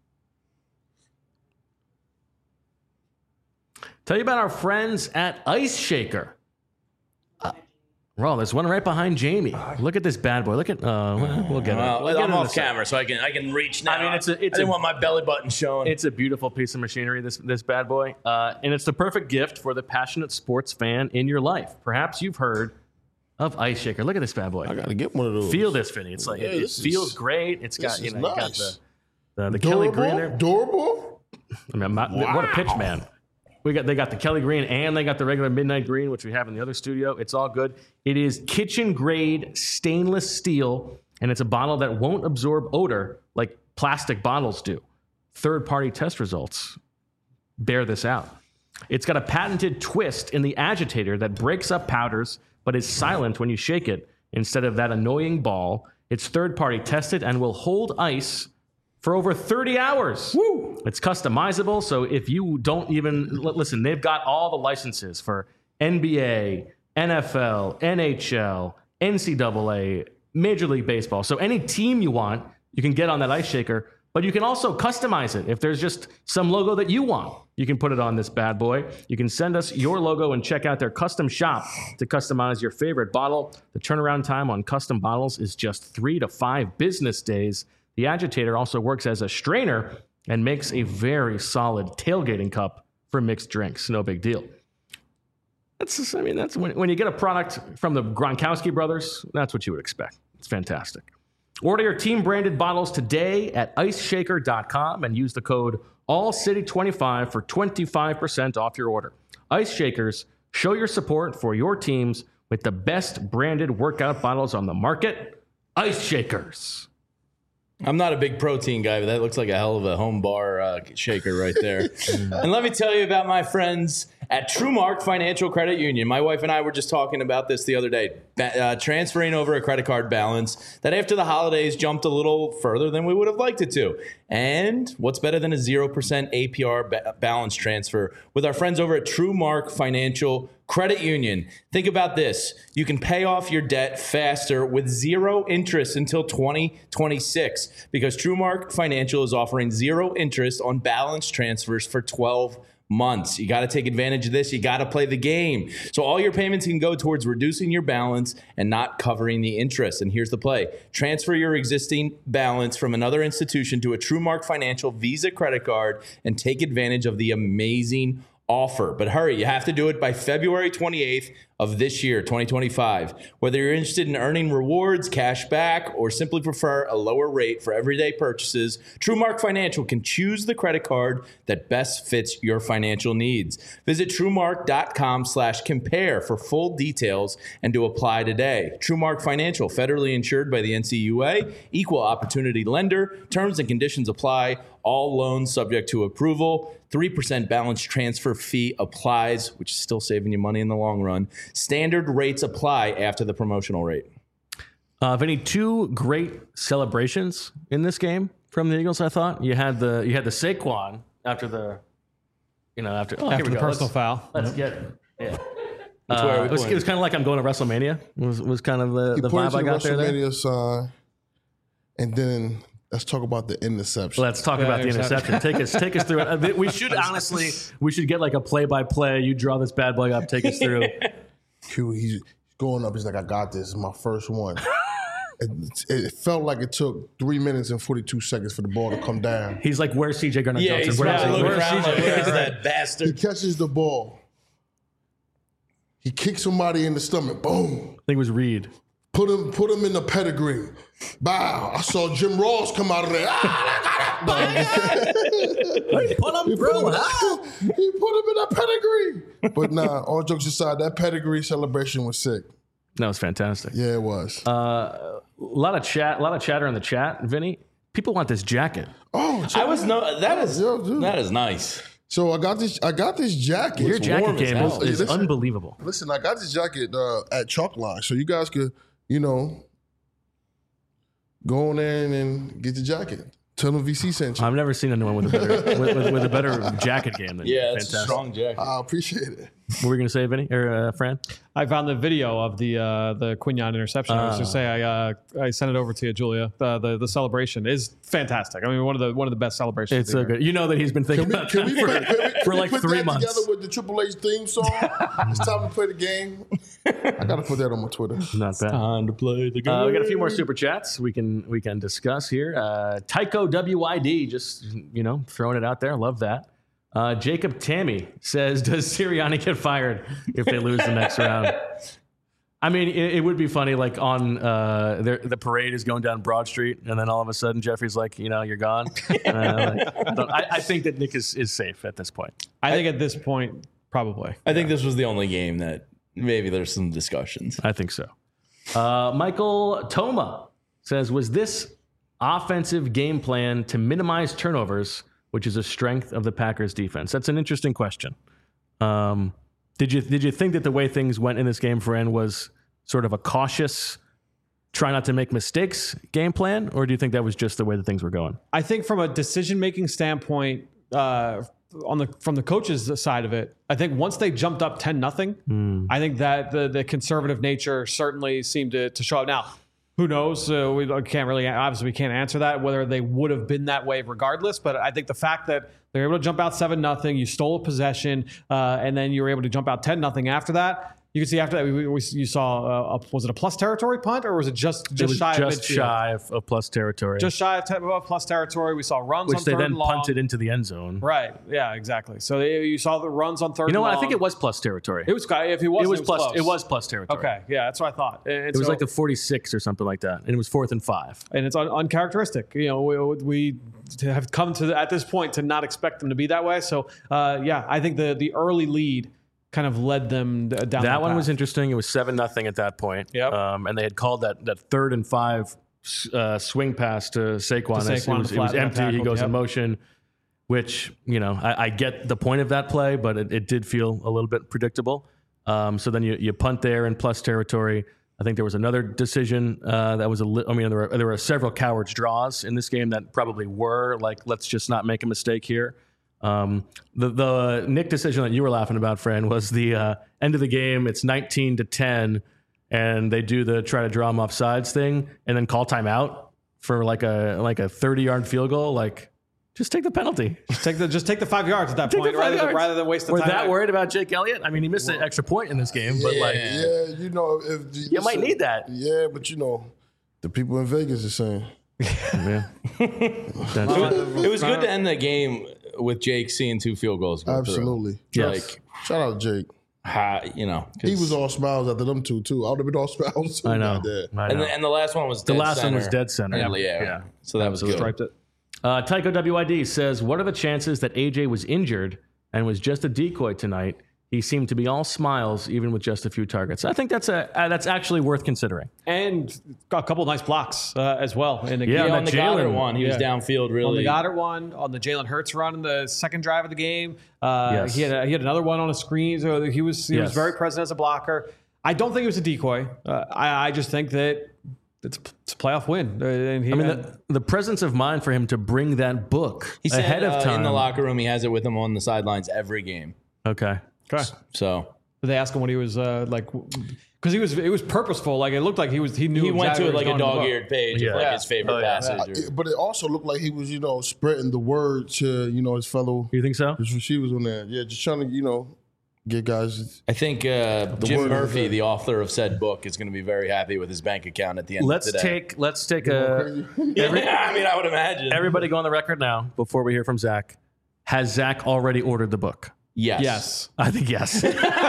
Tell you about our friends at Ice Shaker. Well, there's one right behind Jamie. Look at this bad boy. Look at. We'll get it. Well, We'll get I'm it in a off sec. camera, so I can reach now. I mean, I didn't want my belly button showing. It's a beautiful piece of machinery, this bad boy. And it's the perfect gift for the passionate sports fan in your life. Perhaps you've heard of Ice Shaker. Look at this bad boy. I got to get one of those. Feel this, Finny. It's like, Yeah, it feels great. It's got, is you got nice. the Kelly Green there. Durable? I mean, what a pitch, man. They got the Kelly Green and they got the regular Midnight Green, which we have in the other studio. It's all good. It is kitchen grade stainless steel, and it's a bottle that won't absorb odor like plastic bottles do. Third-party test results bear this out. It's got a patented twist in the agitator that breaks up powders but is silent when you shake it instead of that annoying ball. It's third-party tested and will hold ice for over 30 hours. Woo! It's customizable, so if you don't even listen, they've got all the licenses for NBA, NFL, NHL, NCAA, Major League Baseball. So any team you want, you can get on that ice shaker, but you can also customize it. If there's just some logo that you want, you can put it on this bad boy. You can send us your logo and check out their custom shop to customize your favorite bottle. The turnaround time on custom bottles is just 3 to 5 business days. The agitator also works as a strainer and makes a very solid tailgating cup for mixed drinks. No big deal. That's when you get a product from the Gronkowski brothers, that's what you would expect. It's fantastic. Order your team-branded bottles today at iceshaker.com and use the code ALLCITY25 for 25% off your order. Ice Shakers, show your support for your teams with the best branded workout bottles on the market, Ice Shakers. I'm not a big protein guy, but that looks like a hell of a home bar shaker right there. And let me tell you about my friends at TrueMark Financial Credit Union. My wife and I were just talking about this the other day, transferring over a credit card balance that after the holidays jumped a little further than we would have liked it to. And what's better than a 0% APR balance transfer with our friends over at TrueMark Financial Credit Union? Think about this. You can pay off your debt faster with 0 interest until 2026 because TrueMark Financial is offering 0 interest on balance transfers for 12 months. You got to take advantage of this. You got to play the game. So all your payments can go towards reducing your balance and not covering the interest. And here's the play. Transfer your existing balance from another institution to a TrueMark Financial Visa credit card and take advantage of the amazing offer. But hurry, you have to do it by February 28th of this year, 2025. Whether you're interested in earning rewards, cash back, or simply prefer a lower rate for everyday purchases, TrueMark Financial can choose the credit card that best fits your financial needs. Visit TrueMark.com/compare for full details and to apply today. TrueMark Financial, federally insured by the NCUA, equal opportunity lender. Terms and conditions apply. All loans subject to approval. 3% balance transfer fee applies, which is still saving you money in the long run. Standard rates apply after the promotional rate. Vinny, 2 great celebrations in this game from the Eagles. I thought you had the Saquon after the personal foul. Let's get it was kind of like I'm going to WrestleMania. Was kind of the vibe I got there. WrestleMania sign, and then let's talk about the interception. Let's talk about the interception. Take us through it. We should get like a play-by-play. You draw this bad boy up. Take us through. Q, he's going up. He's like, I got this. It's my first one. It felt like it took 3 minutes and 42 seconds for the ball to come down. He's like, where's CJ Gardner Johnson? He's looking around like, where's that bastard? He catches the ball. He kicks somebody in the stomach. Boom. I think it was Reed. Put him in the pedigree. Bow. I saw Jim Ross come out of there. He put him in the pedigree. But nah, all jokes aside, that pedigree celebration was sick. That was fantastic. Yeah, it was. A lot of chatter in the chat, Vinny. People want this jacket. Oh, that is nice. So I got this jacket. Your jacket game is unbelievable. Listen, I got this jacket at Chalkline, so you guys could, go on there and get the jacket. Tell them VC sent you. I've never seen anyone with a better jacket game than you. Yeah, it's a strong jacket. I appreciate it. What were you going to say, Vinny or Fran? I found the video of the Quinyon interception. I was just say I sent it over to you, Julia. The celebration is fantastic. I mean, one of the best celebrations. It's so good. You know that he's been thinking about that for like 3 months. Together with the Triple H theme song. It's time to play the game. I got to put that on my Twitter. Not bad. Time to play the game. We got a few more super chats we can discuss here. Tycho WID just throwing it out there. Love that. Jacob Tammy says, does Sirianni get fired if they lose the next round? I mean, it would be funny, like on the parade is going down Broad Street, and then all of a sudden Jeffrey's like, you're gone. I think that Nick is safe at this point. I think at this point, probably. I think this was the only game that maybe there's some discussions. I think so. Michael Toma says, was this offensive game plan to minimize turnovers, which is a strength of the Packers defense? That's an interesting question. Did you think that the way things went in this game, Fran, was sort of a cautious, try not to make mistakes game plan, or do you think that was just the way that things were going? I think from a decision-making standpoint, from the coaches' side of it, I think once they jumped up 10-0, I think that the conservative nature certainly seemed to show up. Now, who knows? We can't answer that, whether they would have been that way regardless. But I think the fact that they're able to jump out 7-0, you stole a possession, and then you were able to jump out 10-0 after that. You can see after that, you saw, was it a plus territory punt, or was it just shy of midfield? Just shy of plus territory. Just shy of plus territory. We saw runs which on third and long. Which they then punted into the end zone. Right. Yeah, exactly. So you saw the runs on third and long. You know what? I think it was plus territory. It was, if it was plus. Close. It was plus territory. Okay. Yeah, that's what I thought. It was like the 46 or something like that, and it was 4th and 5. And it's uncharacteristic. We have come to at this point to not expect them to be that way. So I think the early lead kind of led them down that one path. was interesting. It was 7-0 at that point. Yep. And they had called that 3rd and 5 swing pass to Saquon. It was empty. He goes in motion, which, I get the point of that play, but it did feel a little bit predictable. So then you punt there in plus territory. I think there was another decision that was there were several cowards draws in this game that probably were like, let's just not make a mistake here. The Nick decision that you were laughing about, Fran, was the end of the game. It's 19-10, and they do the try to draw them off sides thing, and then call timeout for like a 30-yard field goal. Like, just take the penalty. Just take the 5 yards at that point, rather than waste the time. We're that worried about Jake Elliott? I mean, he missed an extra point in this game, but if you might need that. Yeah, but the people in Vegas are saying. Yeah. It was good to end the game with Jake seeing 2 field goals go Absolutely. through. Yes. Like, shout out to Jake. He was all smiles after them two too. I would have been all smiles too. I know. And the last one was dead one was dead center. Yeah. So that was good. Striped it. Tycho WID says, what are the chances that AJ was injured and was just a decoy tonight? He seemed to be all smiles, even with just a few targets. I think that's actually worth considering. And got a couple of nice blocks as well. In the Yeah, game. On the Goddard one, he was downfield really. On the Goddard one, on the Jalen Hurts run in the second drive of the game. Yes. He had another one on a screen. So he was very present as a blocker. I don't think it was a decoy. I just think that it's a playoff win. And the presence of mind for him to bring that book He said, ahead of time. in the locker room, he has it with him on the sidelines every game. Okay. So did they ask him what he was like? Because it was purposeful. Like it looked like he knew. He went exactly to it what like was a going in the dog-eared page of like his favorite passage. But it also looked like he was, spreading the word to, his fellow You think so? his receivers on there. Yeah, just trying to, get guys. I think Jim Murphy, the author of said book, is going to be very happy with his bank account at the end of the day. Let's take a. I would imagine. Everybody go on the record now before we hear from Zach. Has Zach already ordered the book? Yes. I think yes.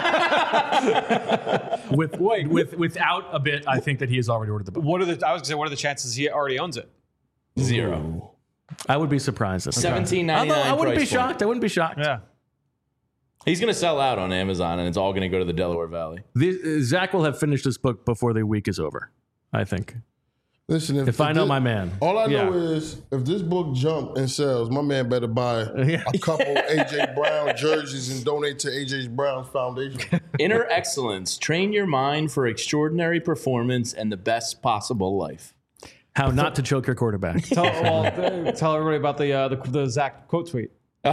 Without a bit, I think that he has already ordered the book. What are the chances he already owns it? 0. I would be surprised. $17.99. I wouldn't be price point. shocked. I wouldn't be shocked. Yeah. He's going to sell out on Amazon, and it's all going to go to the Delaware Valley. Zach will have finished this book before the week is over, I think. Listen, if I know my man. All I know is if this book jump and sells, my man better buy a couple AJ Brown jerseys and donate to AJ Brown's foundation. Inner excellence. Train your mind for extraordinary performance and the best possible life. How not to choke your quarterback. Tell everybody about the Zach quote tweet.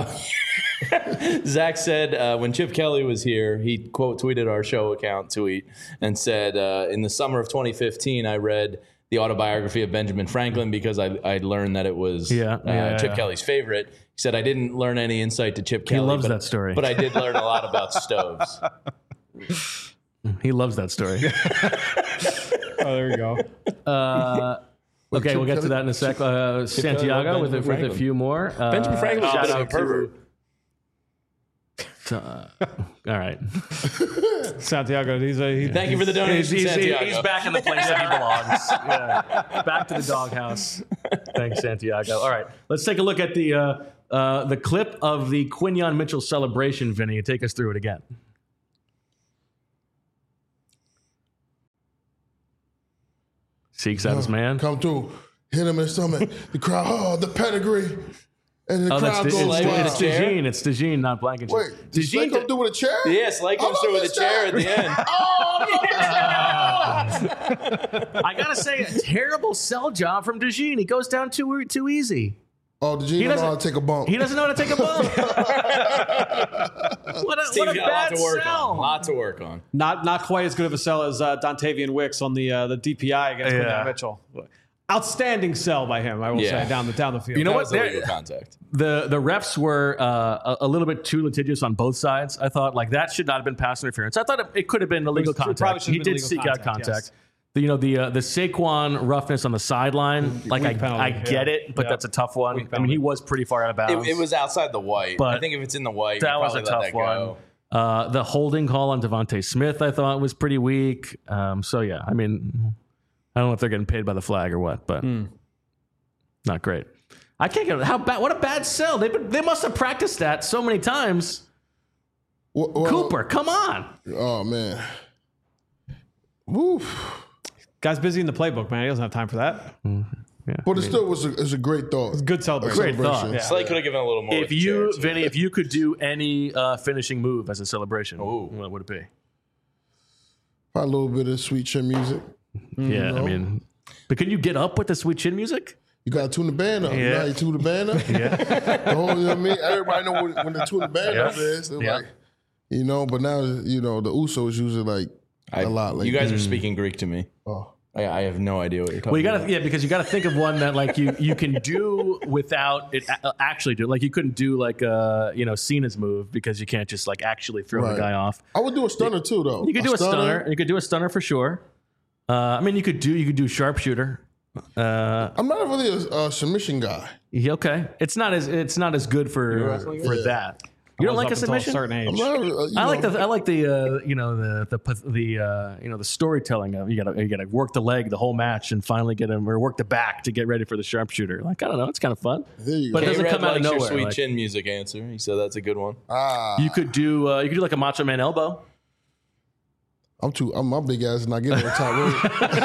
Zach said when Chip Kelly was here, he quote tweeted our show account tweet and said, in the summer of 2015, I read the autobiography of Benjamin Franklin because I learned that it was Chip Kelly's favorite. He said, I didn't learn any insight to Chip Kelly. He loves that story. But I did learn a lot about stoves. He loves that story. Oh, there you go. Okay, we'll get to that in a sec. Santiago with a few more. Benjamin Franklin was shout a out pervert. All right. Santiago, Thank you for the donation, Santiago. He's back in the place that he belongs. Yeah. Back to the doghouse. Thanks, Santiago. All right, let's take a look at the clip of the Quinyon Mitchell celebration. Vinny, take us through it again. Seeks out his man. Come through, hit him in the stomach. The crowd, the pedigree. And the crowd goes wild. It's DeJean. It's DeJean, not Blankenship. Wait, did Slay come through with a chair? Yes, Slay comes through with a chair at the end. I gotta say, a terrible sell job from DeJean. He goes down too easy. Oh, DeJean doesn't know how to take a bump. He doesn't know how to take a bump. what a bad sell. Lot to work on. Not quite as good of a sell as Dontavian Wicks on the DPI against Quinyon Mitchell. Outstanding sell by him, I will say, down the field. You know what? Contact. The refs were a little bit too litigious on both sides. I thought like that should not have been pass interference. I thought it could have been illegal contact. He did seek out contact. Yes. The Saquon roughness on the sideline, like I get it, but that's a tough one. I mean, he was pretty far out of bounds. It was outside the white. But I think if it's in the white, that was a tough one. The holding call on Devontae Smith, I thought, was pretty weak. So yeah, I mean, I don't know if they're getting paid by the flag or what, but not great. I can't get how bad. What a bad sell. They must have practiced that so many times. Cooper, come on. Oh, man. Woof. Guy's busy in the playbook, man. He doesn't have time for that. Yeah, But it still was a great thought. Good celebration. Great thought. Yeah. Slay could have given a little more. If you, Vinny, if you could do any finishing move as a celebration, what would it be? A little bit of sweet chin music. Yeah, I mean, but can you get up with the sweet chin music? You got to tune the band up. You know how you tune the band up? Yeah. The whole, you know what I mean? Everybody know when they tune the band up is. They're like, you know, but now, you know, the Usos usually like a lot. Like, you guys are speaking Greek to me. Oh. I have no idea what you're talking Well, you about. gotta, because you gotta think of one that like you can do without it actually do. Like you couldn't do like Cena's move because you can't just like actually throw the guy off. I would do a stunner too, though. You could do a stunner. You could do a stunner for sure. I mean, you could do sharpshooter. I'm not really a submission guy. Okay, it's not as good for that. You don't like a submission? Certain age. I like the storytelling of you gotta work the leg the whole match and finally get him, or work the back to get ready for the sharpshooter. Like, I don't know, it's kind of fun. There you But go. it doesn't come out of Your nowhere. sweet Like, chin music answer. He said that's a good one. you could do like a Macho Man elbow. I'm my big ass is not getting on the top rope.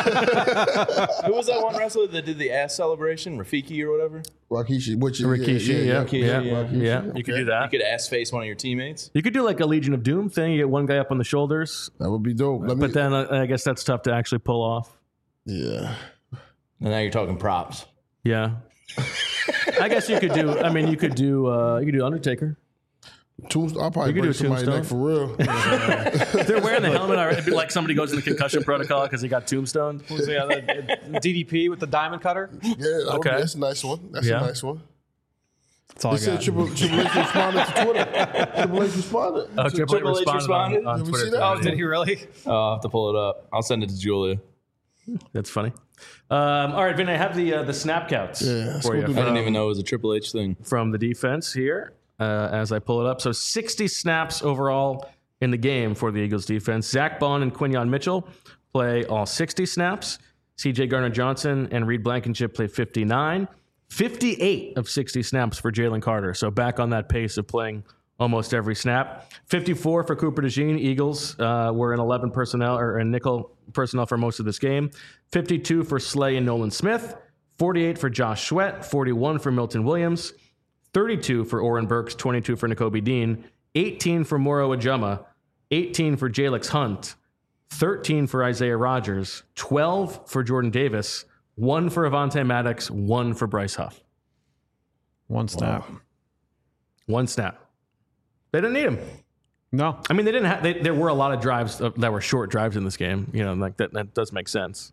Who was that one wrestler that did the ass celebration? Rafiki or whatever? Rikishi, Rikishi, yeah. You could do that. You could ass face one of your teammates. You could do like a Legion of Doom thing. You get one guy up on the shoulders, That would be dope. but then I guess that's tough to actually pull off. Yeah. And now you're talking props. Yeah. I guess you could do. I mean, you could do Undertaker. I'll probably You could break do somebody's Tombstone. neck for real. If they're wearing the helmet already, it'd be like somebody goes in the concussion protocol because he got tombstoned. The DDP with the diamond cutter. Yeah, Okay. that's a nice one. That's a nice one. That's all They I said got. Triple H responded to Twitter. Triple H responded. Oh, Triple H responded on Did we Twitter. see that? Oh, did he really? I'll have to pull it up. I'll send it to Julia. That's funny. All right, Vin, I have the snap counts let's for go you do I didn't even know it was a Triple H thing. from the defense here as I pull it up. So 60 snaps overall in the game for the Eagles defense. Zach Bond and Quinyon Mitchell play all 60 snaps. CJ Gardner-Johnson and Reed Blankenship play 59. 58 of 60 snaps for Jalen Carter. So back on that pace of playing almost every snap. 54 for Cooper DeJean. Eagles were in 11 personnel or in nickel personnel for most of this game. 52 for Slay and Nolan Smith. 48 for Josh Sweat. 41 for Milton Williams. 32 for Oren Burks. 22 for Nakobe Dean. 18 for Moro Ajama. 18 for Jalix Hunt. 13 for Isaiah Rogers. 12 for Jordan Davis. 1 for Avante Maddox. 1 for Bryce Huff. One snap. One snap. They didn't need him. No. I mean, they didn't have. There were a lot of drives that were short drives in this game. You know, like that does make sense.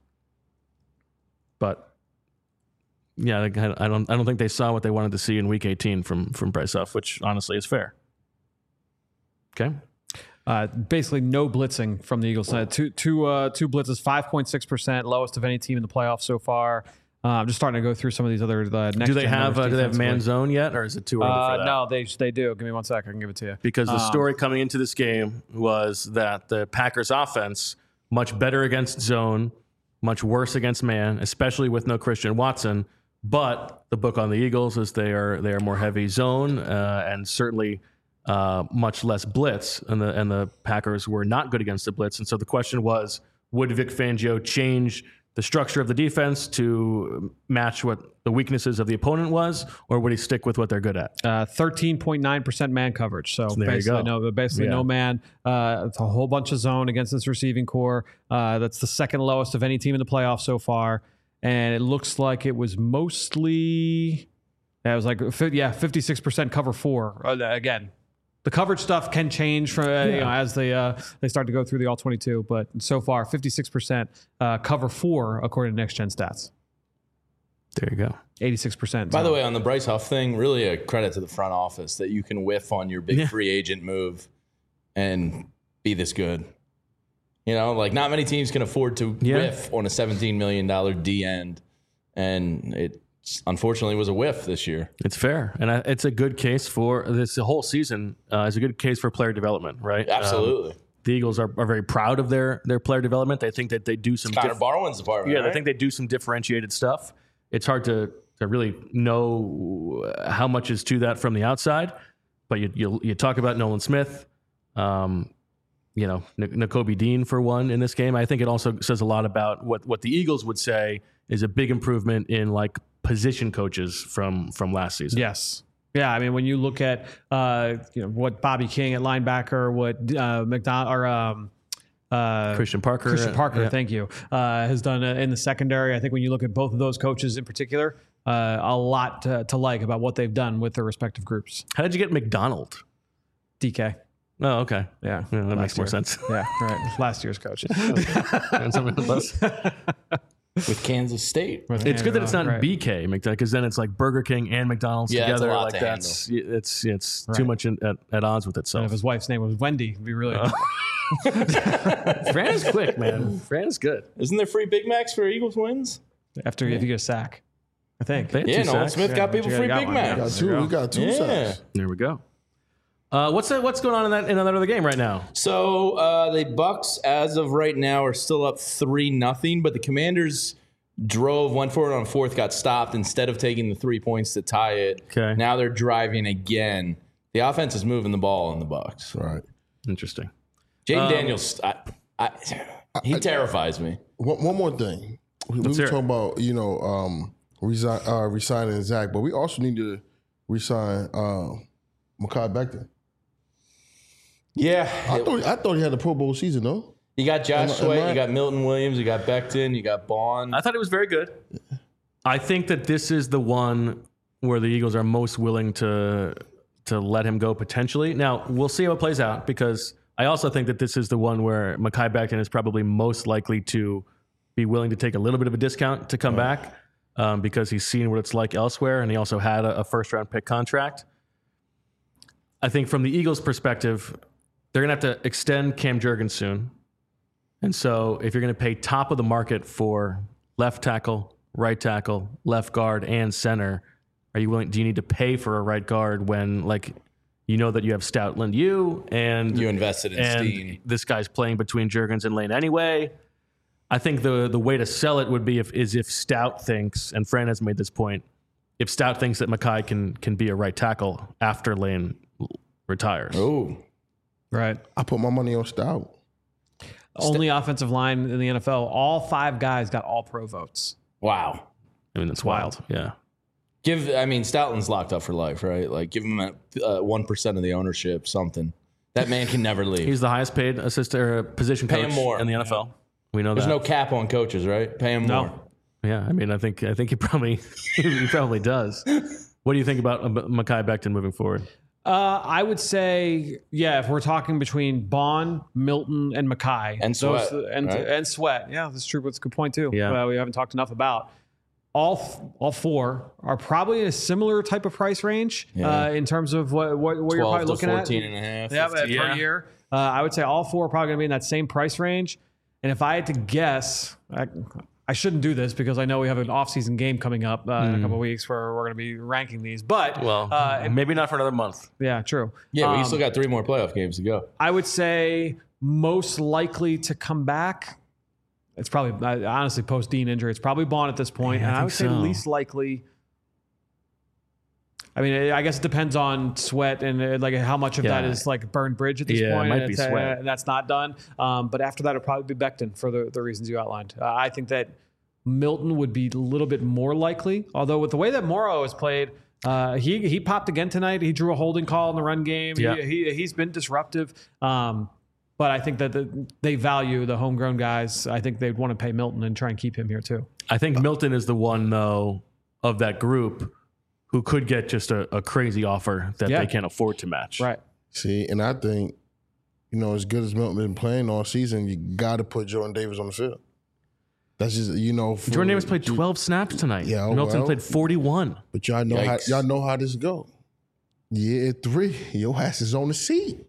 But yeah, I don't think they saw what they wanted to see in Week 18 from Bryce Huff, which honestly is fair. Okay. Basically, no blitzing from the Eagles side. Two blitzes, 5.6%, lowest of any team in the playoffs so far. I'm just starting to go through some of these other next. Do they have man zone yet, or is it too early for that? No, they do. Give me 1 sec. I can give it to you. Because the story coming into this game was that the Packers offense much better against zone, much worse against man, especially with no Christian Watson. But the book on the Eagles is they are more heavy zone and certainly much less blitz, and the Packers were not good against the blitz. And so the question was, would Vic Fangio change the structure of the defense to match what the weaknesses of the opponent was, or would he stick with what they're good at? 13.9% man coverage. So there you go. no man. It's a whole bunch of zone against this receiving core. That's the second lowest of any team in the playoffs so far. And it looks like it was mostly, it was like 56% cover 4. Again, the coverage stuff can change from as they start to go through the all 22, but so far 56% cover 4 according to Next Gen Stats. There you go. 86%. By the way, on the Bryce Huff thing, really a credit to the front office that you can whiff on your big free agent move and be this good. You know, like not many teams can afford to whiff on a $17 million D end, and it unfortunately was a whiff this year. It's fair, and it's a good case for this. The whole season is a good case for player development, right? Absolutely. The Eagles are very proud of their player development. They think that they do some Connor Barwin's department. Yeah, right? I think they do some differentiated stuff. It's hard to really know how much is to that from the outside, but you talk about Nolan Smith, Nakobe Dean for one in this game. I think it also says a lot about what the Eagles would say is a big improvement in like position coaches from last season. Yes. Yeah, I mean, when you look at what Bobby King at linebacker, what Christian Parker, thank you, has done in the secondary. I think when you look at both of those coaches in particular, a lot to like about what they've done with their respective groups. How did you get McDonald? DK. Oh, okay. Yeah, that makes more sense. Yeah, right. Last year's coach. And somebody else. With Kansas State. It's good that it's not BK McDonald, because then it's like Burger King and McDonald's together. Like it's too much at odds with itself. And if his wife's name was Wendy, it'd be really. Fran is quick, man. Fran is good. Isn't there free Big Macs for Eagles wins? If you get a sack, I think. Nolan Smith got people free Big Macs. We got two sacks. There we go. What's going on in that other game right now? So the Bucks, as of right now, are still up 3-0, but the Commanders went forward on fourth, got stopped instead of taking the 3 points to tie it. Okay. Now they're driving again. The offense is moving the ball in the Bucks. Right. Interesting. Jaden Daniels, he terrifies me. One more thing. We were talking about resigning Zach, but we also need to resign Mekhi Becton. Yeah. I thought he had a Pro Bowl season, though. You got Josh Sweat, you got Milton Williams, you got Becton, you got Bond. I thought it was very good. I think that this is the one where the Eagles are most willing to let him go potentially. Now, we'll see how it plays out, because I also think that this is the one where Mekhi Becton is probably most likely to be willing to take a little bit of a discount to come back because he's seen what it's like elsewhere, and he also had a first-round pick contract. I think from the Eagles' perspective, they're going to have to extend Cam Jurgens soon. And so if you're going to pay top of the market for left tackle, right tackle, left guard, and center, do you need to pay for a right guard when, like, you know that you have Stoutland and you invested in Steen. This guy's playing between Jurgens and Lane anyway? I think the way to sell it would be if Stout thinks, and Fran has made this point, if Stout thinks that Mekhi can be a right tackle after Lane retires. Oh, right. I put my money on Stout. Only offensive line in the NFL. All 5 guys got all pro votes. Wow. I mean, that's wild. Yeah. Stoutland's locked up for life, right? Like, give him 1% of the ownership, something. That man can never leave. He's the highest paid assistant or position coach in the NFL. Yeah. We know There's no cap on coaches, right? Pay him more. Yeah, I mean, I think he probably does. What do you think about Mekhi Becton moving forward? I would say, if we're talking between Bond, Milton, and Mekhi. And Sweat. And Sweat. Yeah, that's true. That's a good point, too. Yeah. We haven't talked enough about. All 4 are probably in a similar type of price range in terms of what you're probably looking at. 14 and a half. Yeah, per year. I would say all 4 are probably going to be in that same price range. And if I had to guess, I shouldn't do this because I know we have an off-season game coming up in a couple of weeks where we're going to be ranking these. But maybe not for another month. Yeah, true. Yeah, we still got 3 more playoff games to go. I would say most likely to come back. It's probably, honestly, post-Dean injury, it's probably Bond at this point. And I would say least likely. I mean, I guess it depends on Sweat and like how much of that is like burned bridge at this point. It might be Sweat. And that's not done. But after that, it'll probably be Becton for the reasons you outlined. I think that Milton would be a little bit more likely. Although with the way that Morrow has played, he popped again tonight. He drew a holding call in the run game. Yeah. He's been disruptive. But I think that they value the homegrown guys. I think they'd want to pay Milton and try and keep him here too. I think Milton is the one, though, of that group who could get just a crazy offer that they can't afford to match. Right. See, and I think, as good as Milton been playing all season, you got to put Jordan Davis on the field. That's just, Jordan Davis played 12 snaps tonight. Yeah, Milton played 41. But y'all know how this go. Year 3, your ass is on the seat.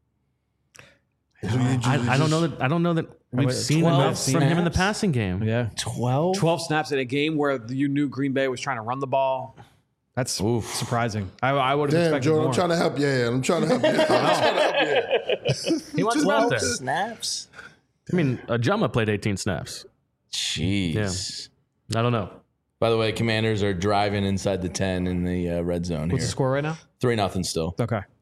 I don't know that we've seen enough from him in the passing game. Yeah. 12 snaps in a game where you knew Green Bay was trying to run the ball. That's surprising. I would have expected Jordan, more. I'm trying to help you. I'm trying to help you. He wants him out there. Snaps? I mean, Ajama played 18 snaps. Jeez. Yeah. I don't know. By the way, Commanders are driving inside the 10 in the red zone. What's the score right now? 3-0 still. Okay.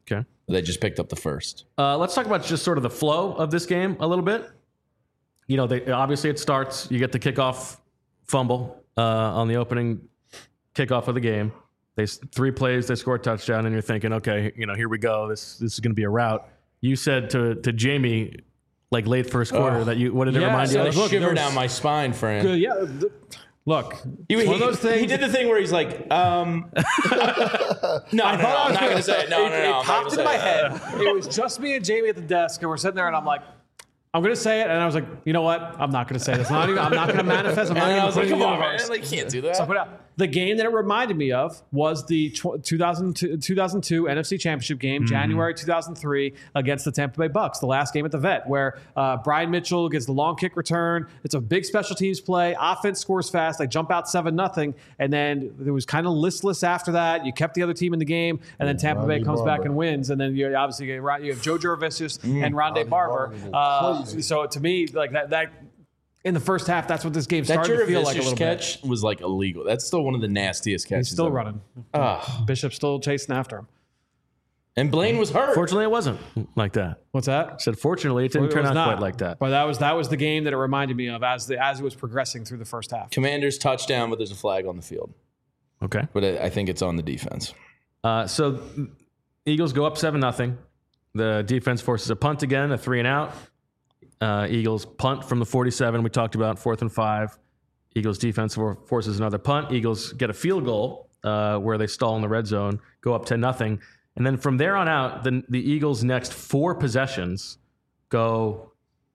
Okay. They just picked up the first. Let's talk about just sort of the flow of this game a little bit. You know, obviously it starts. You get the kickoff fumble on the opening kickoff of the game. 3 plays, they score a touchdown, and you're thinking, okay, you know, here we go. This is going to be a rout. You said to Jamie, like late first quarter, that what did it remind you of? Look, shiver down my spine, Fran. Good, yeah. Look, one of those things. He did the thing where he's like, no, I'm not going to say it. No, it popped into my head. It was just me and Jamie at the desk, and we're sitting there, and I'm like, I'm going to say it. And I was like, you know what? I'm not going to say this. I'm not going to manifest. I'm not going to put it in the universe. Man, can't do that. So I put it out. The game that it reminded me of was the 2002 NFC Championship game, January 2003, against the Tampa Bay Bucks, the last game at the Vet, where Brian Mitchell gets the long kick return. It's a big special teams play. Offense scores fast. They jump out 7-0, and then it was kind of listless after that. You kept the other team in the game, and then Tampa Bay comes back and wins. And then you obviously you have Joe Jurevicius and Rondé Barber. So to me, like that. In the first half, that's what this game started to feel like a little catch bit. Was like illegal. That's still one of the nastiest catches. He's still running. Bishop's still chasing after him. And Blaine was hurt. Fortunately, it wasn't like that. What's that? I said, fortunately, it didn't turn out quite like that. But that was the game that it reminded me of as it was progressing through the first half. Commanders touchdown, but there's a flag on the field. Okay. But I think it's on the defense. So Eagles go up 7-0. The defense forces a punt again, a 3-and-out. Eagles punt from the 47. We talked about 4th and 5. Eagles defense forces another punt. Eagles get a field goal where they stall in the red zone, go up 10-0. And then from there on out, the Eagles' next 4 possessions go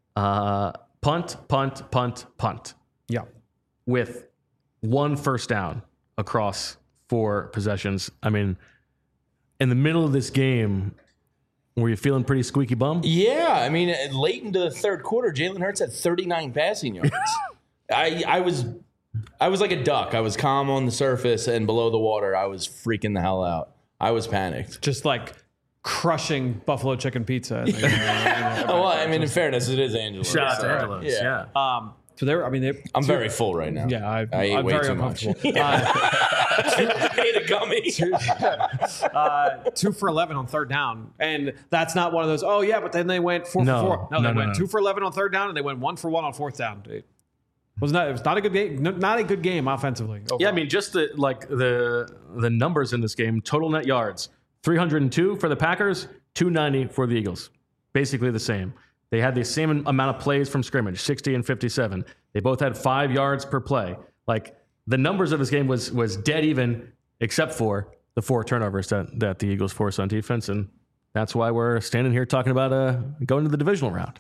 punt, punt, punt, punt. Yeah. With 1 first down across 4 possessions. I mean, in the middle of this game, were you feeling pretty squeaky bum? Yeah. I mean, late into the third quarter, Jalen Hurts had 39 passing yards. I was like a duck. I was calm on the surface, and below the water, I was freaking the hell out. I was panicked. Just like crushing buffalo chicken pizza. Well, I mean, in fauress, it is Angelo's. Shout out to Angelo's. Yeah. I'm very full right now. Yeah, I ate way very too uncomfortable. much. Ate a gummy. 2 for 11 on third down, and that's not one of those. Oh yeah, but then they went 4 for 4. No, they went 2 for 11 on third down, and they went 1 for 1 on fourth down. It was not a good game. Not a good game offensively. Overall. Yeah, I mean, just the numbers in this game: total net yards 302 for the Packers, 290 for the Eagles. Basically the same. They had the same amount of plays from scrimmage, 60 and 57. They both had 5 yards per play. Like, the numbers of this game was dead even, except for the 4 turnovers that the Eagles forced on defense, and that's why we're standing here talking about going to the divisional round.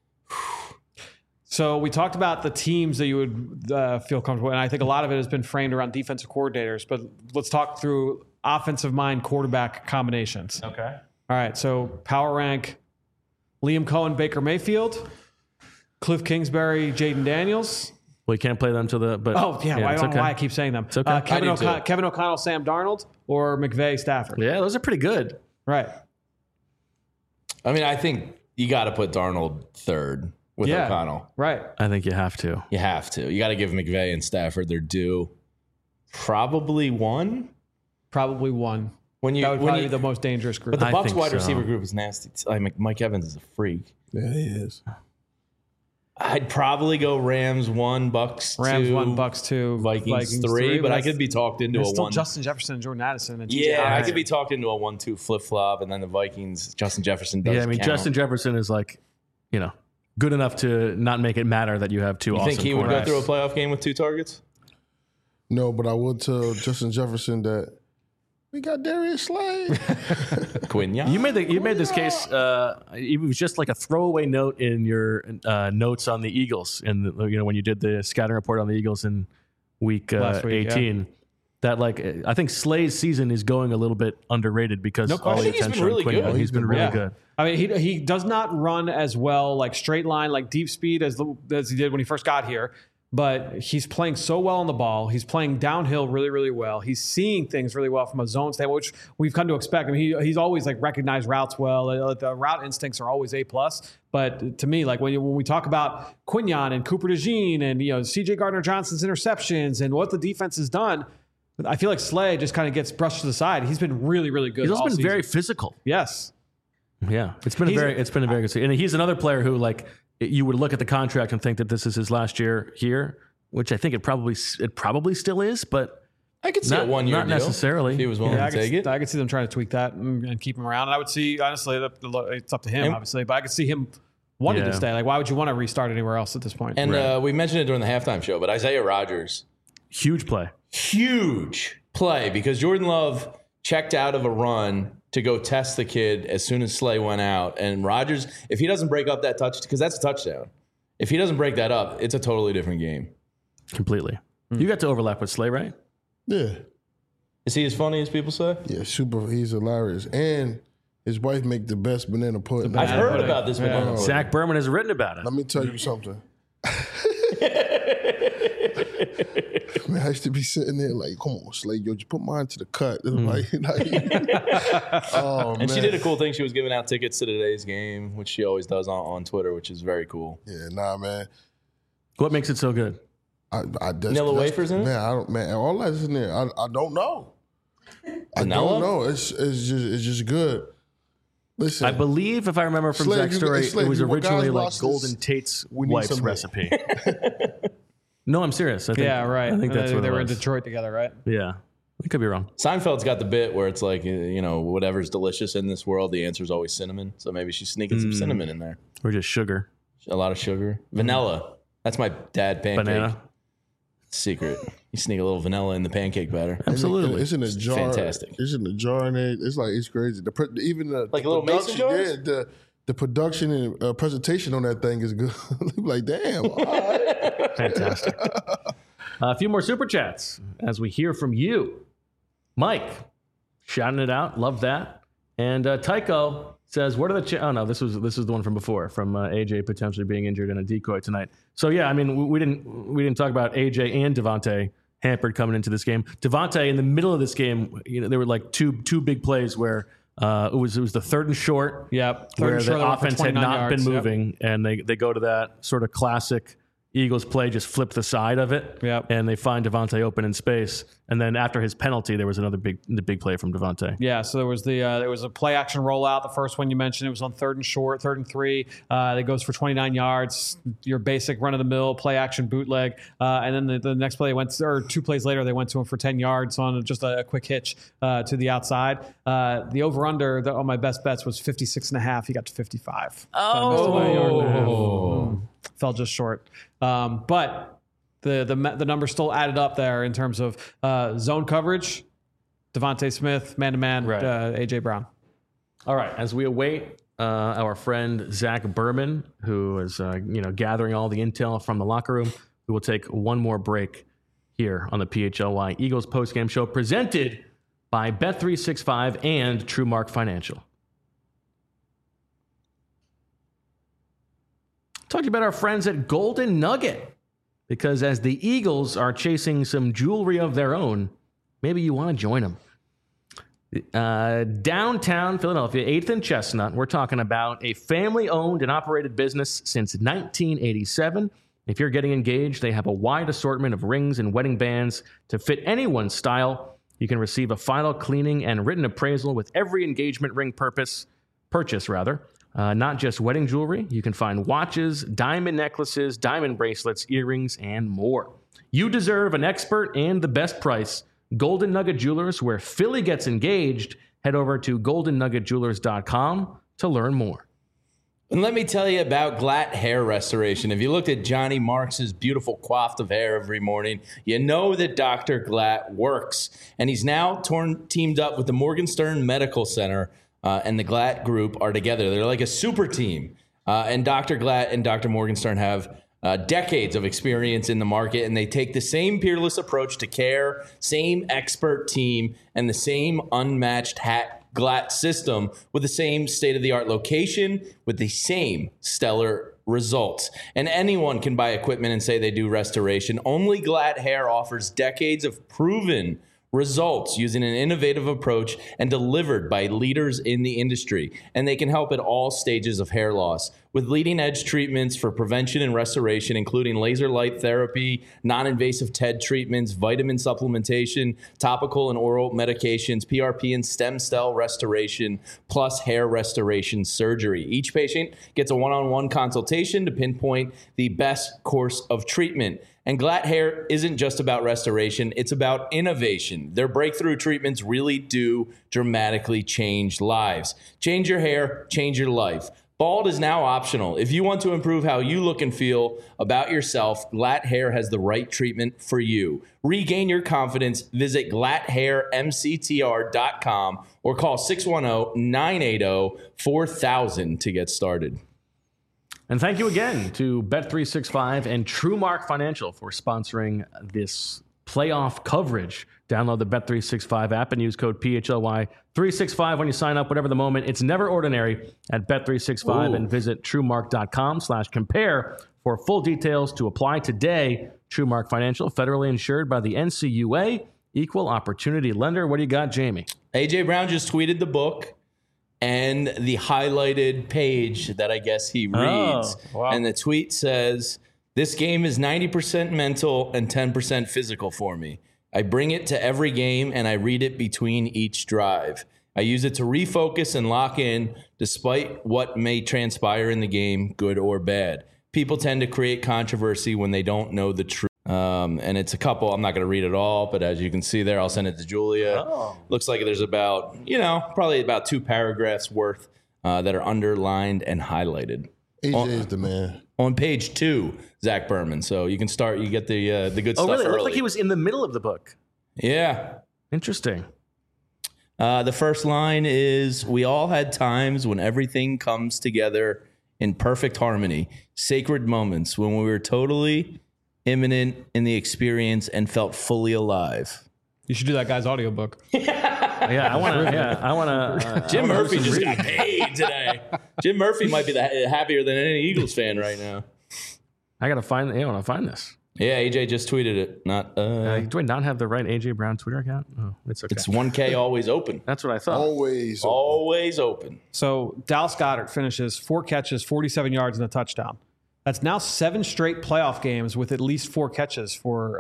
So we talked about the teams that you would feel comfortable, and I think a lot of it has been framed around defensive coordinators, but let's talk through offensive mind quarterback combinations. Okay. All right, so power rank Liam Cohen, Baker Mayfield, Cliff Kingsbury, Jaden Daniels. Well, you can't play them to the. But I don't know why I keep saying them. It's okay. Kevin O'Connell, Sam Darnold, or McVay, Stafford. Yeah, those are pretty good. Right. I mean, I think you got to put Darnold third with O'Connell. Right. I think you have to. You have to. You got to give McVay and Stafford their due. Probably one. That would probably be the most dangerous group. But the Bucs wide receiver group is nasty. I mean, Mike Evans is a freak. Yeah, he is. I'd probably go Rams 1, Bucs 2. Rams 1, Bucs 2, Vikings 3, but I could be talked into a 1. Justin Jefferson and Jordan Addison. And I could be talked into a 1-2 flip-flop, and then the Vikings, Justin Jefferson does count. Justin Jefferson is like, good enough to not make it matter that you have 2 awesome quarterbacks. You think he would go through a playoff game with 2 targets? No, but I would tell Justin Jefferson that we got Darius Slay. Quinn, You made this case. It was just like a throwaway note in your notes on the Eagles, and when you did the scouting report on the Eagles in week 18. Yeah. That I think Slay's season is going a little bit underrated because all the attention on Quinn. He's been really good. I mean, he does not run as well, like straight line, like deep speed as he did when he first got here. But he's playing so well on the ball. He's playing downhill really, really well. He's seeing things really well from a zone standpoint, which we've come to expect. I mean, he's always recognized routes well. The route instincts are always A+. But to me, when we talk about Quinyon and Cooper DeJean and C.J. Gardner-Johnson's interceptions and what the defense has done, I feel like Slay just kind of gets brushed to the side. He's been really, really good. He's also all been season. very physical. Yes. Yeah, it's been a very good season. And he's another player who, like, you would look at the contract and think that this is his last year here, which I think it probably still is, but I could see a 1 year not deal necessarily. if he was willing to take it. I could see them trying to tweak that and keep him around. And I would see, honestly, it's up to him, obviously, but I could see him wanting to stay. Like, why would you want to restart anywhere else at this point? And we mentioned it during the halftime show, but Isaiah Rodgers, huge play, because Jordan Love checked out of a run to go test the kid as soon as Slay went out. And Rodgers, if he doesn't break up that touch, because that's a touchdown. If he doesn't break that up, it's a totally different game. Completely. You got to overlap with Slay, right? Yeah. Is he as funny as people say? Yeah, super. He's hilarious. And his wife make the best banana pudding. I've heard about this banana pudding. Zach Berman has written about it. Let me tell you something. Man, I used to be sitting there like, come on, Slay, yo, just put mine to the cut. Oh, and she did a cool thing. She was giving out tickets to today's game, which she always does on Twitter, which is very cool. Yeah, nah, man. What makes it so good? Vanilla wafers in it? Man, all that's in there. I don't know. Vanilla? I don't know. It's just good. Listen, I believe, if I remember from Slay, Zach's story, Slay, it was originally like watch Golden this, Tate's we need wife's some recipe. No, I'm serious. I think, right. I think that's what they it were in was. Detroit together, right? Yeah. I could be wrong. Seinfeld's got the bit where it's like, whatever's delicious in this world, the answer is always cinnamon. So maybe she's sneaking some cinnamon in there. Or just sugar. A lot of sugar. Vanilla. That's my dad pancake. Banana. Secret. You sneak a little vanilla in the pancake batter. Absolutely. It's in a jar. Fantastic. It's in a jar, and it's crazy. Even the Like little mason jars? Yeah, the production and presentation on that thing is good. Like, damn. All right. Fantastic. A few more super chats as we hear from you. Mike, shouting it out. Love that. And Tycho says, what are the oh no, this is the one from before, from AJ potentially being injured in a decoy tonight. So yeah, I mean, we didn't talk about AJ and Devontae hampered coming into this game. Devontae in the middle of this game, there were like two big plays where it was the 3rd and short. Yep. Where the offense had not been moving, and they go to that sort of classic Eagles play, just flip the side of it, and they find Devontae open in space. And then after his penalty, there was another big play from Devontae. Yeah, so there was a play action rollout. The first one you mentioned, it was on 3rd and short, 3rd and 3. That goes for 29 yards. Your basic run of the mill play action bootleg, and then the next play or 2 plays later, they went to him for 10 yards on just a quick hitch to the outside. The over under on my best bets was 56.5. He got to 55. Fell just short. But the numbers still added up there in terms of zone coverage, Devontae Smith, man-to-man, Right. A.J. Brown. All right, as we await our friend Zach Berman, who is gathering all the intel from the locker room, we will take one more break here on the PHLY Eagles postgame show, presented by Bet365 and TrueMark Financial. Talk to you about our friends at Golden Nugget, because as the Eagles are chasing some jewelry of their own, maybe you want to join them. Downtown Philadelphia, 8th and Chestnut, we're talking about a family-owned and operated business since 1987. If you're getting engaged, they have a wide assortment of rings and wedding bands to fit anyone's style. You can receive a final cleaning and written appraisal with every engagement ring purchase. Not just wedding jewelry. You can find watches, diamond necklaces, diamond bracelets, earrings, and more. You deserve an expert and the best price. Golden Nugget Jewelers, where Philly gets engaged. Head over to goldennuggetjewelers.com to learn more. And let me tell you about Glatt Hair Restoration. If you looked at Johnny Marks' beautiful coif of hair every morning, you know that Dr. Glatt works. And he's now teamed up with the Morgenstern Medical Center, and the Glatt Group are together. They're like a super team. And Dr. Glatt and Dr. Morgenstern have decades of experience in the market, and they take the same peerless approach to care, same expert team, and the same unmatched Glatt system with the same state-of-the-art location with the same stellar results. And anyone can buy equipment and say they do restoration. Only Glatt Hair offers decades of proven results using an innovative approach and delivered by leaders in the industry. And they can help at all stages of hair loss with leading-edge treatments for prevention and restoration, including laser light therapy, non-invasive TED treatments, vitamin supplementation, topical and oral medications, PRP and stem cell restoration, plus hair restoration surgery. Each patient gets a one-on-one consultation to pinpoint the best course of treatment. And Glatt Hair isn't just about restoration, it's about innovation. Their breakthrough treatments really do dramatically change lives. Change your hair, change your life. Bald is now optional. If you want to improve how you look and feel about yourself, Glatt Hair has the right treatment for you. Regain your confidence. Visit glatthairmctr.com or call 610-980-4000 to get started. And thank you again to Bet365 and TrueMark Financial for sponsoring this playoff coverage. Download the Bet365 app and use code PHLY365 when you sign up, whatever the moment. It's never ordinary at Bet365 and visit TrueMark.com/compare for full details to apply today. TrueMark Financial, federally insured by the NCUA, equal opportunity lender. What do you got, Jamie? A.J. Brown just tweeted the book and the highlighted page that I guess he reads. Oh, wow. And the tweet says, "This game is 90% mental and 10% physical for me. I bring it to every game and I read it between each drive. I use it to refocus and lock in despite what may transpire in the game, good or bad. People tend to create controversy when they don't know the truth." And it's a couple. I'm not going to read it all, but as you can see there, I'll send it to Julia. Looks like there's about, probably about 2 paragraphs worth that are underlined and highlighted. AJ is the man. On page 2, Zach Berman. So you can start. You get the good stuff. Oh, really? It early. looked like he was in the middle of the book. Yeah. Interesting. The first line is, "We all had times when everything comes together in perfect harmony. Sacred moments when we were totally imminent in the experience and felt fully alive." You should do that guy's audiobook. Yeah, I want to. Jim Murphy just got paid today. Jim Murphy might be happier than any Eagles fan right now. I gotta find. I want to find this. Yeah, AJ just tweeted it. Not. Do I not have the right AJ Brown Twitter account? Oh, it's okay. It's 1K always open. That's what I thought. Always. Always open. So Dallas Goedert finishes 4 catches, 47 yards, and a touchdown. That's now 7 straight playoff games with at least 4 catches for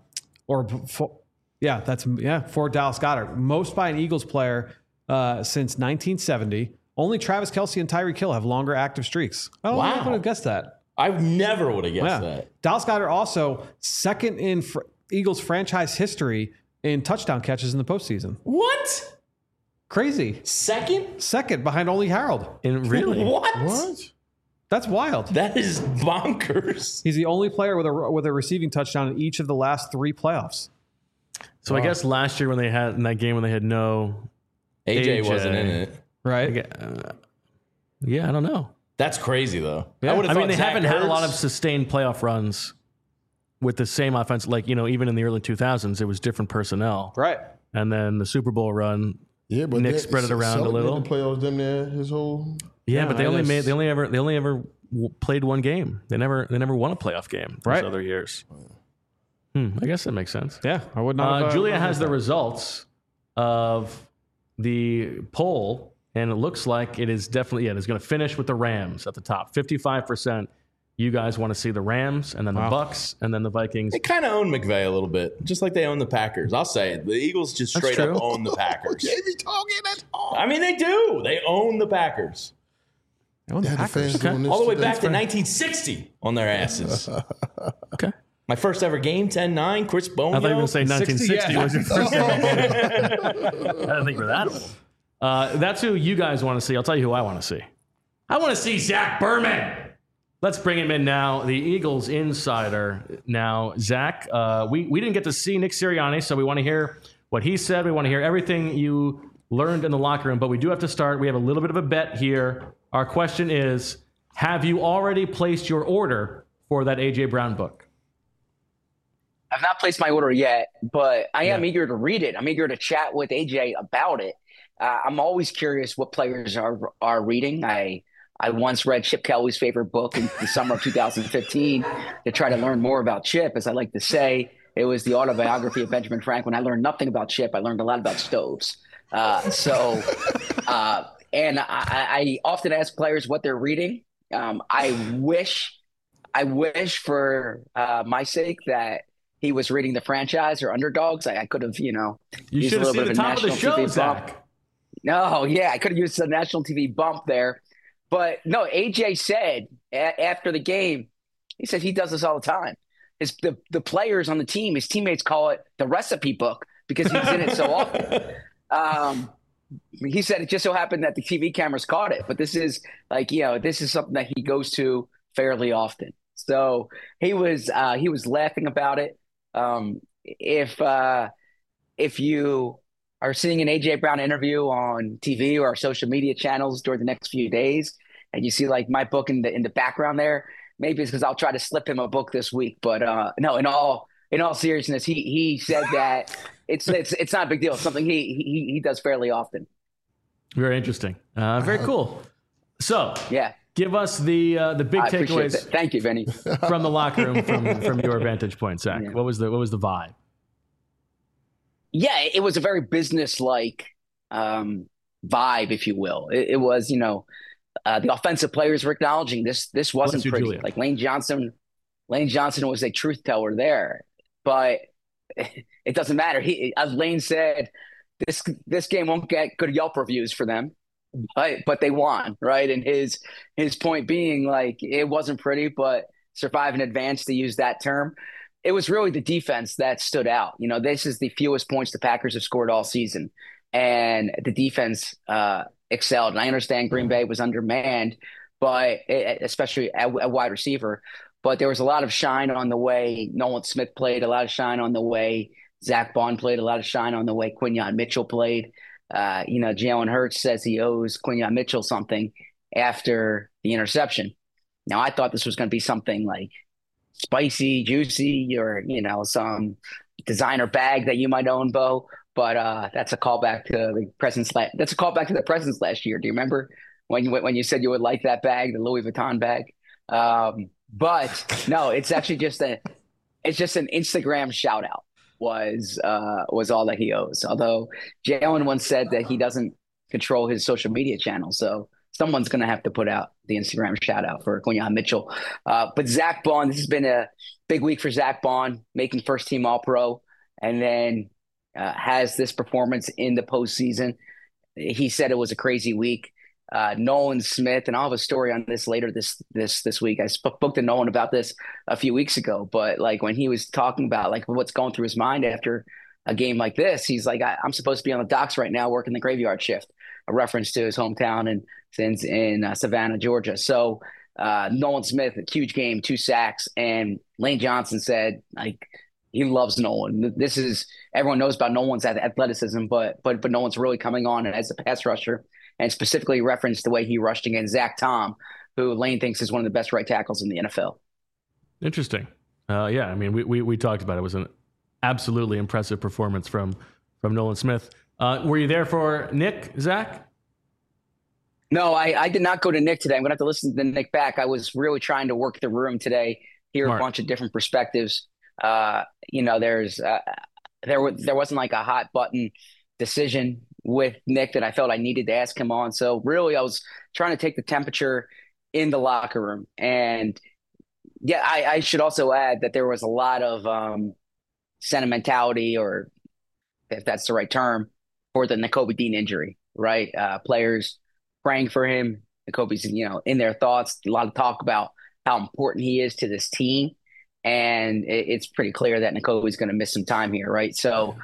Dallas Goedert. Most by an Eagles player since 1970. Only Travis Kelce and Tyreek Hill have longer active streaks. Oh, Wow. I would have guessed that. I never would have guessed that. Dallas Goedert also second in Eagles franchise history in touchdown catches in the postseason. What? Crazy. Second behind only Harold. Really? What? That's wild. That is bonkers. He's the only player with a receiving touchdown in each of the last 3 playoffs. So I guess last year when they had in that game when they had no AJ wasn't in it. Right? Yeah, I don't know. That's crazy though. Yeah. I mean, they haven't had a lot of sustained playoff runs with the same offense. Like, even in the early 2000s, it was different personnel. Right. And then the Super Bowl run, Yeah, but Nick spread it around a little. The playoffs, them there, his whole. Yeah, but they only played one game. They never won a playoff game those other years. I guess that makes sense. Yeah, I would not. Julia has the results of the poll, and it looks like it is definitely it's going to finish with the Rams at the top. 55%. You guys want to see the Rams, and then the Bucks, and then the Vikings. They kind of own McVay a little bit, just like they own the Packers. I'll say it. The Eagles just straight up own the Packers. Jamie talking, that's all. I mean, they do. They own the Packers. All All the way back to 1960 on their asses. Okay. My first ever game, 10-9, Chris Bonio. I thought you were going to say 1960 was your first ever game. I didn't think we're that old. That's who you guys want to see. I'll tell you who I want to see. I want to see Zach Berman. Let's bring him in now, the Eagles insider. Now, Zach, we didn't get to see Nick Sirianni, so we want to hear what he said. We want to hear everything you learned in the locker room, but we do have to start. We have a little bit of a bet here. Our question is, have you already placed your order for that A.J. Brown book? I've not placed my order yet, but I am eager to read it. I'm eager to chat with AJ about it. I'm always curious what players are reading. I once read Chip Kelly's favorite book in the summer of 2015 to try to learn more about Chip, as I like to say. It was the autobiography of Benjamin Franklin. I learned nothing about Chip. I learned a lot about stoves. And I often ask players what they're reading. I wish for my sake that he was reading The Franchise or Underdogs. I could have, You used should a have little seen bit the of a top of the national show, TV bump. Zach. No, yeah, I could have used a national TV bump there. But no, AJ said after the game, he said he does this all the time. The players on the team, his teammates call it the recipe book because he's in it so often. He said it just so happened that the TV cameras caught it, but this is this is something that he goes to fairly often. So he was laughing about it. If you are seeing an AJ Brown interview on TV or our social media channels during the next few days, and you see like my book in the background there, maybe it's because I'll try to slip him a book this week. But no, in all seriousness, he said that it's not a big deal. It's something he does fairly often. Very interesting. Very cool. So yeah, give us the big takeaways. Thank you, Vinny. From the locker room from your vantage point, Zach. Yeah. What was the vibe? Yeah, it was a very business-like vibe, if you will. It was, the offensive players were acknowledging this wasn't pretty. Julia. Like Lane Johnson was a truth teller there, but it doesn't matter. As Lane said, this game won't get good Yelp reviews for them, but they won, right? And his point being like it wasn't pretty, but survive in advance, to use that term. It was really the defense that stood out. This is the fewest points the Packers have scored all season, and the defense excelled. And I understand Green Bay was undermanned, but especially at wide receiver. But there was a lot of shine on the way Nolan Smith played, a lot of shine on the way Zach Bond played, a lot of shine on the way Quinyon Mitchell played. Jalen Hurts says he owes Quinyon Mitchell something after the interception. Now, I thought this was going to be something like spicy, juicy, or some designer bag that you might own, Bo. But that's a callback to the presents. That's a callback to the presents last year. Do you remember when you said you would like that bag, the Louis Vuitton bag? But no, it's actually just an Instagram shout out was all that he owes. Although Jalen once said that he doesn't control his social media channel, so someone's going to have to put out the Instagram shout out for Quinyon Mitchell. But Zach Bond, this has been a big week for Zach Bond, making first team All-Pro, and then has this performance in the postseason. He said it was a crazy week. Nolan Smith, and I'll have a story on this later this week. I spoke to Nolan about this a few weeks ago, but like when he was talking about like what's going through his mind after a game like this, he's like, I'm supposed to be on the docks right now working the graveyard shift, a reference to his hometown and since in Savannah, Georgia. So Nolan Smith, a huge game, 2 sacks, and Lane Johnson said like he loves Nolan. Everyone knows about Nolan's athleticism, but Nolan's really coming on as a pass rusher, and specifically referenced the way he rushed against Zach Tom, who Lane thinks is one of the best right tackles in the NFL. Interesting. Yeah, I mean, we talked about it. It was an absolutely impressive performance from Nolan Smith. Were you there for Nick, Zach? No, I did not go to Nick today. I'm going to have to listen to Nick back. I was really trying to work the room today, hear a bunch of different perspectives. There wasn't like a hot button decision with Nick that I felt I needed to ask him on. So really I was trying to take the temperature in the locker room. And yeah, I should also add that there was a lot of sentimentality, or if that's the right term, for the Nakobe Dean injury, right? Players praying for him. Nakobe's, in their thoughts, a lot of talk about how important he is to this team. And it's pretty clear that Nakobe's going to miss some time here, right? So,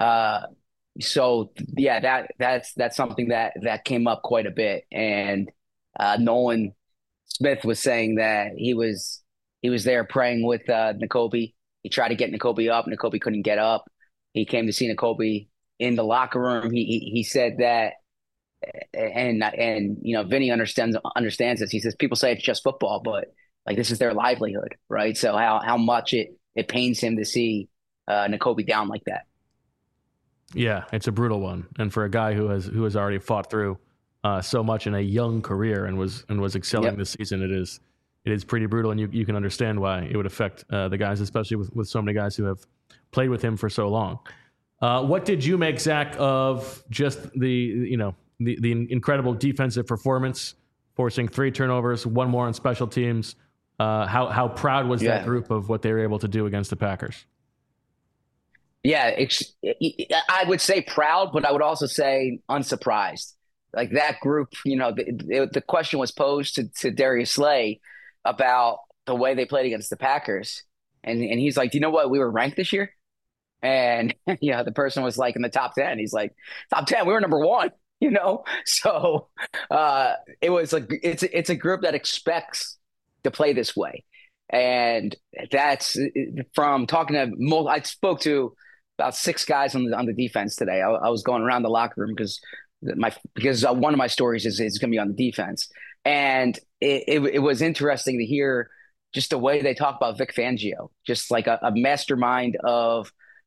yeah, that's something that came up quite a bit. And Nolan Smith was saying that he was there praying with Nakobe. He tried to get Nakobe up. Nakobe couldn't get up. He came to see Nakobe in the locker room. He said that, and Vinny understands this. He says people say it's just football, but like this is their livelihood, right? So how much it pains him to see Nakobe down like that. Yeah, it's a brutal one, and for a guy who has already fought through so much in a young career and was excelling this season, it is pretty brutal, and you can understand why it would affect the guys, especially with so many guys who have played with him for so long. What did you make, Zach, of just the incredible defensive performance, forcing 3 turnovers, 1 more on special teams? How proud was that group of what they were able to do against the Packers? Yeah, I would say proud, but I would also say unsurprised. Like that group, the question was posed to Darius Slay about the way they played against the Packers. And he's like, do you know what? We were ranked this year. And, the person was like in the top 10. He's like, top 10, we were number 1, So it was like, it's a group that expects to play this way. And that's from talking to, I spoke to about 6 guys on the defense today. I was going around the locker room because one of my stories is going to be on the defense. And it was interesting to hear just the way they talk about Vic Fangio, just like a mastermind of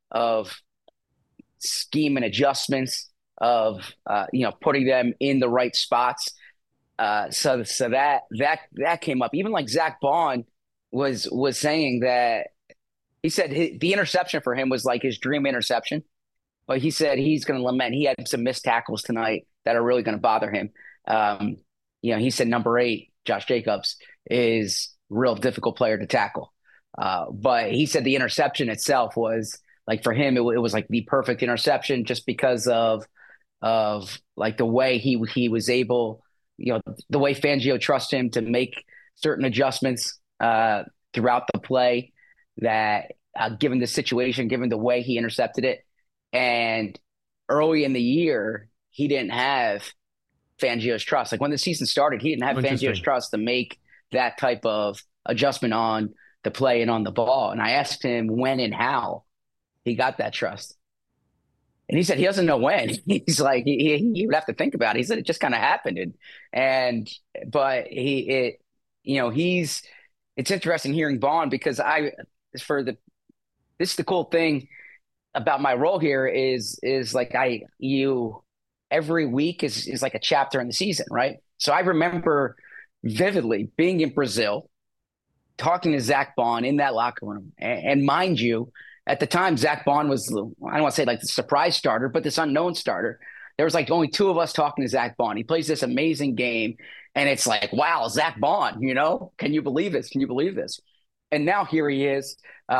scheme and adjustments, of putting them in the right spots. So that came up. Even like Zach Bond was saying that, he said the interception for him was like his dream interception. But he said he's going to lament. He had some missed tackles tonight that are really going to bother him. He said number 8, Josh Jacobs, is a real difficult player to tackle. But he said the interception itself was like, for him, it was like the perfect interception just because of like the way he was able, the way Fangio trusts him to make certain adjustments throughout the play that given the situation, given the way he intercepted it. And early in the year, he didn't have Fangio's trust. Like when the season started, he didn't have Fangio's trust to make that type of adjustment on the play and on the ball. And I asked him when and how he got that trust. And he said he doesn't know when. He's like, he would have to think about it. He said it just kind of happened. But it's interesting hearing Bond, because this is the cool thing about my role here is like every week is like a chapter in the season, right? So I remember vividly being in Brazil, talking to Zach Bond in that locker room. And mind you, at the time, Zach Bond was, I don't want to say like the surprise starter, but this unknown starter. There was like only 2 of us talking to Zach Bond. He plays this amazing game. And it's like, wow, Zach Bond, can you believe this? Can you believe this? And now here he is,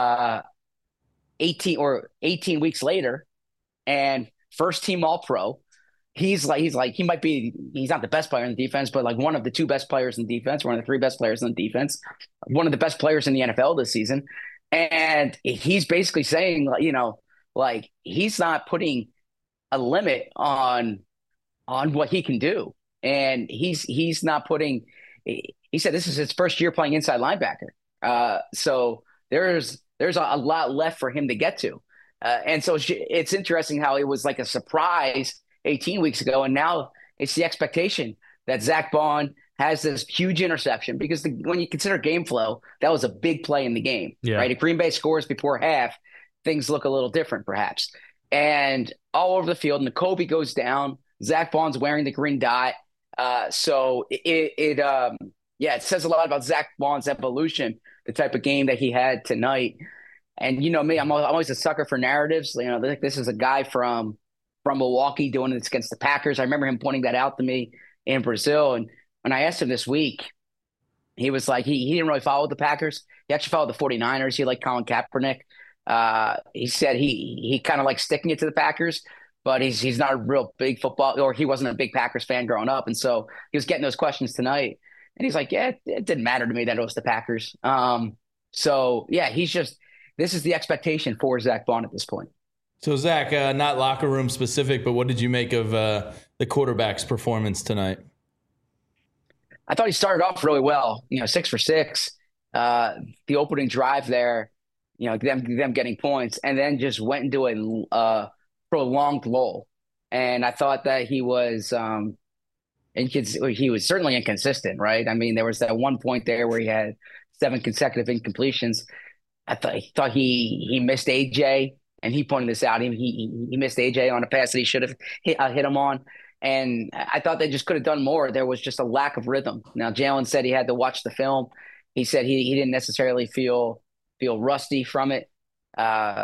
18 weeks later, and first team All-Pro. He's not the best player in the defense, but like one of the 2 best players in defense, one of the 3 best players in the defense, one of the best players in the NFL this season. And he's basically saying, like he's not putting a limit on what he can do. And he's not putting, he said this is his first year playing inside linebacker. So there's a lot left for him to get to. And so it's interesting how it was like a surprise 18 weeks ago. And now it's the expectation that Zach Bond has this huge interception, because when you consider game flow, that was a big play in the game, right? If Green Bay scores before half, things look a little different perhaps. And all over the field, Nakobe goes down. Zach Bond's wearing the green dot. So it says a lot about Zach Bond's evolution, the type of game that he had tonight. And me, I'm always a sucker for narratives. This is a guy from Milwaukee doing this against the Packers. I remember him pointing that out to me in Brazil. And when I asked him this week, he was like, he didn't really follow the Packers. He actually followed the 49ers. He liked Colin Kaepernick. He said he kind of likes sticking it to the Packers, but he's not a real big football, or he wasn't a big Packers fan growing up. And so he was getting those questions tonight. And he's like, yeah, it didn't matter to me that it was the Packers. This is the expectation for Zach Bond at this point. So Zach, not locker room specific, but what did you make of the quarterback's performance tonight? I thought he started off really well, 6 for 6. The opening drive there, them getting points, and then just went into a prolonged lull. And I thought that he was certainly inconsistent, right? I mean, there was that one point there where he had 7 consecutive incompletions. I thought he missed AJ, and he pointed this out. He missed AJ on a pass that he should have hit him on. And I thought they just could have done more. There was just a lack of rhythm. Now, Jalen said he had to watch the film. He said he didn't necessarily feel rusty from it.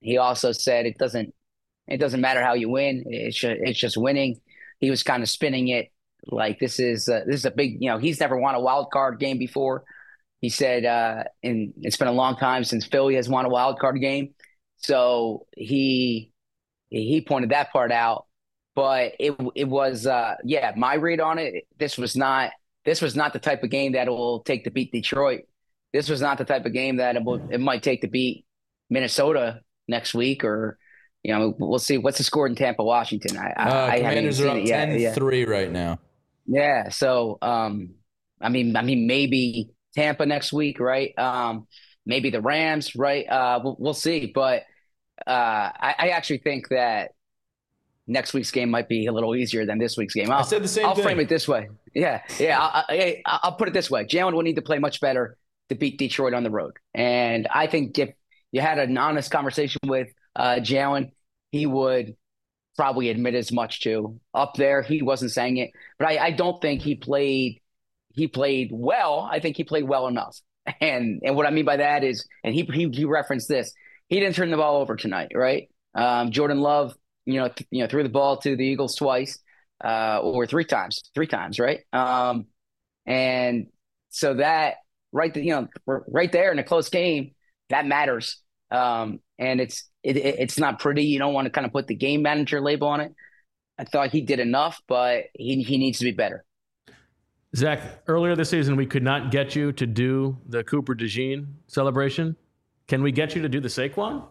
he also said it doesn't matter how you win. It's just winning. He was kind of spinning it like this is a big, he's never won a wild card game before. He said, and it's been a long time since Philly has won a wild card game. So he pointed that part out, but it was my read on it. This was not the type of game that it will take to beat Detroit. This was not the type of game that it might take to beat Minnesota next week, or we'll see. What's the score in Tampa, Washington? Commanders are up 10-3 right now. Yeah. So I mean maybe Tampa next week, right? Maybe the Rams, right? We'll see. But I actually think that next week's game might be a little easier than this week's game. I said the same thing. I'll frame it this way. Yeah. I'll put it this way. Jalen will need to play much better to beat Detroit on the road. And I think if you had an honest conversation with Jalen, he would probably admit as much too. Up there, he wasn't saying it. But I don't think he played well. I think he played well enough. And what I mean by that is, and he referenced this, he didn't turn the ball over tonight, right? Jordan Love, threw the ball to the Eagles twice, or three times, right? And so that right there in a close game, that matters. And it's not pretty. You don't want to kind of put the game manager label on it. I thought he did enough, but he needs to be better. Zach, earlier this season, we could not get you to do the Cooper DeJean celebration. Can we get you to do the Saquon?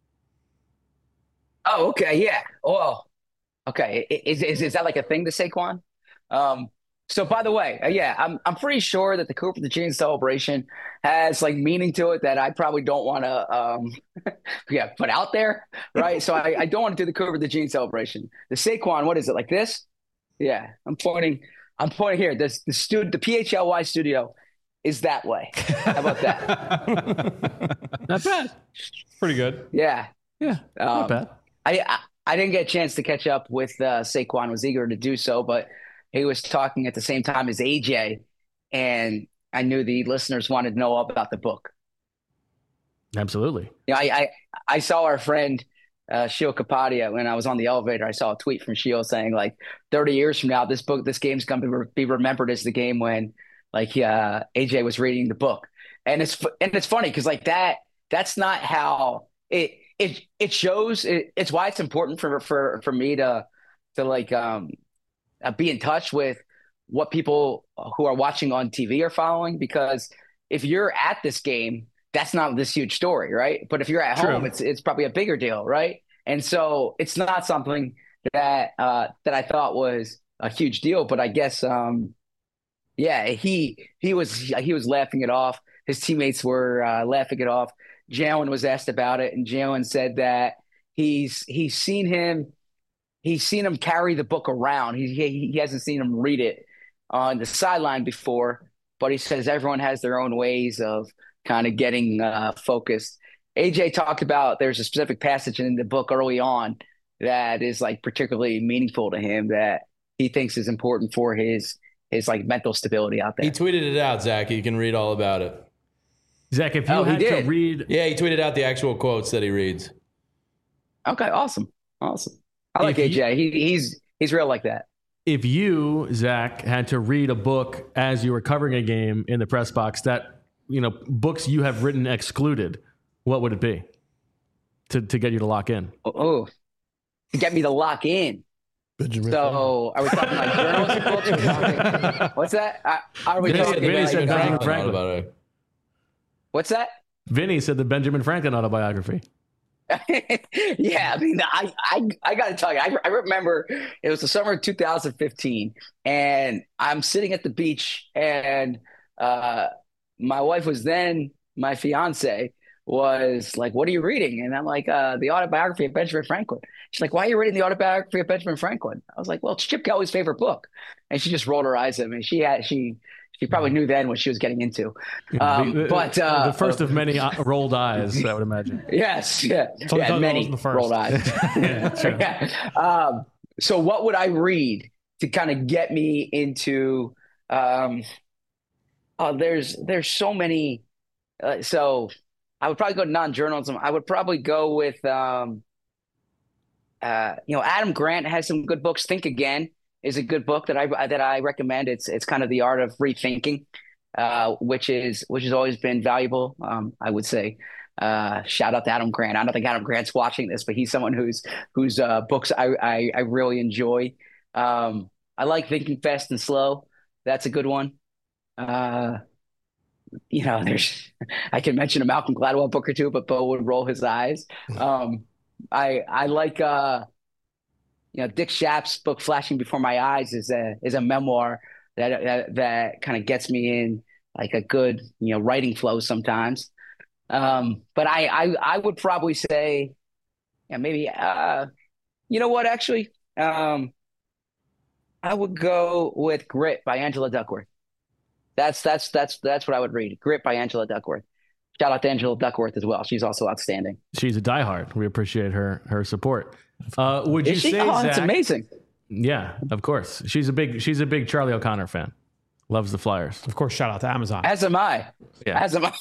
Oh, okay. Yeah. Well, okay. Is that like a thing, the Saquon? So by the way, I'm pretty sure that the Cooper DeJean celebration has like meaning to it that I probably don't want to put out there, right? So I don't want to do the Cooper DeJean celebration. The Saquon, what is it, like this? Yeah, I'm pointing here. The PHLY studio is that way. How about that? Not bad. Pretty good. Yeah. Yeah, not bad. I didn't get a chance to catch up with Saquon. Was eager to do so, but he was talking at the same time as AJ, and I knew the listeners wanted to know all about the book. Absolutely. I saw our friend Shio Kapadia when I was on the elevator. I saw a tweet from Shio saying like 30 years from now, this game's going to be remembered as the game when AJ was reading the book. And it's funny because like that's not how it shows. It's why it's important for me to be in touch with what people who are watching on TV are following, because if you're at this game, that's not this huge story, right? But if you're at home, it's probably a bigger deal, right? And so it's not something that I thought was a huge deal, but I guess he was laughing it off. His teammates were laughing it off. Jalen was asked about it, and Jalen said that he's seen him carry the book around. He hasn't seen him read it on the sideline before, but he says everyone has their own ways of kind of getting focused. AJ talked about there's a specific passage in the book early on that is like particularly meaningful to him that he thinks is important for his like mental stability out there. He tweeted it out, Zach. You can read all about it. Zach, if you had to read... Yeah, he tweeted out the actual quotes that he reads. Okay, awesome. I like AJ. He's real like that. If you, Zach, had to read a book as you were covering a game in the press box that, books you have written excluded, what would it be to get you to lock in? To get me to lock in. Benjamin So are we talking like journalistic books? What's that? Are we talking Vinny said Benjamin About Franklin. it. What's that? Vinny said the Benjamin Franklin autobiography. Yeah, I mean, I got to tell you, I remember it was the summer of 2015, and I'm sitting at the beach, and my wife was then my fiance was like, "What are you reading?" And I'm like, "The autobiography of Benjamin Franklin." She's like, "Why are you reading the autobiography of Benjamin Franklin?" I was like, "Well, it's Chip Kelly's favorite book," and she just rolled her eyes at me. She probably knew then what she was getting into. But the first of many rolled eyes, I would imagine. Yes, yeah, many rolled eyes. So what would I read to kind of get me into? There's so many. So I would probably go non-journalism. I would probably go with, Adam Grant has some good books. Think Again is a good book that I recommend. It's kind of the art of rethinking, which has always been valuable. I would say, shout out to Adam Grant. I don't think Adam Grant's watching this, but he's someone whose books I really enjoy. I like Thinking Fast and Slow. That's a good one. I can mention a Malcolm Gladwell book or two, but Bo would roll his eyes. I like Dick Schaap's book Flashing Before My Eyes is a memoir that kind of gets me in like a good writing flow sometimes. But I would probably say maybe you know what, actually I would go with Grit by Angela Duckworth. That's what I would read. Grit by Angela Duckworth. Shout out to Angela Duckworth as well. She's also outstanding. She's a diehard. We appreciate her support. Would you say? Oh, that's amazing. Yeah, of course. She's a big Charlie O'Connor fan. Loves the Flyers. Of course, shout out to Amazon. As am I. Yeah. As am I.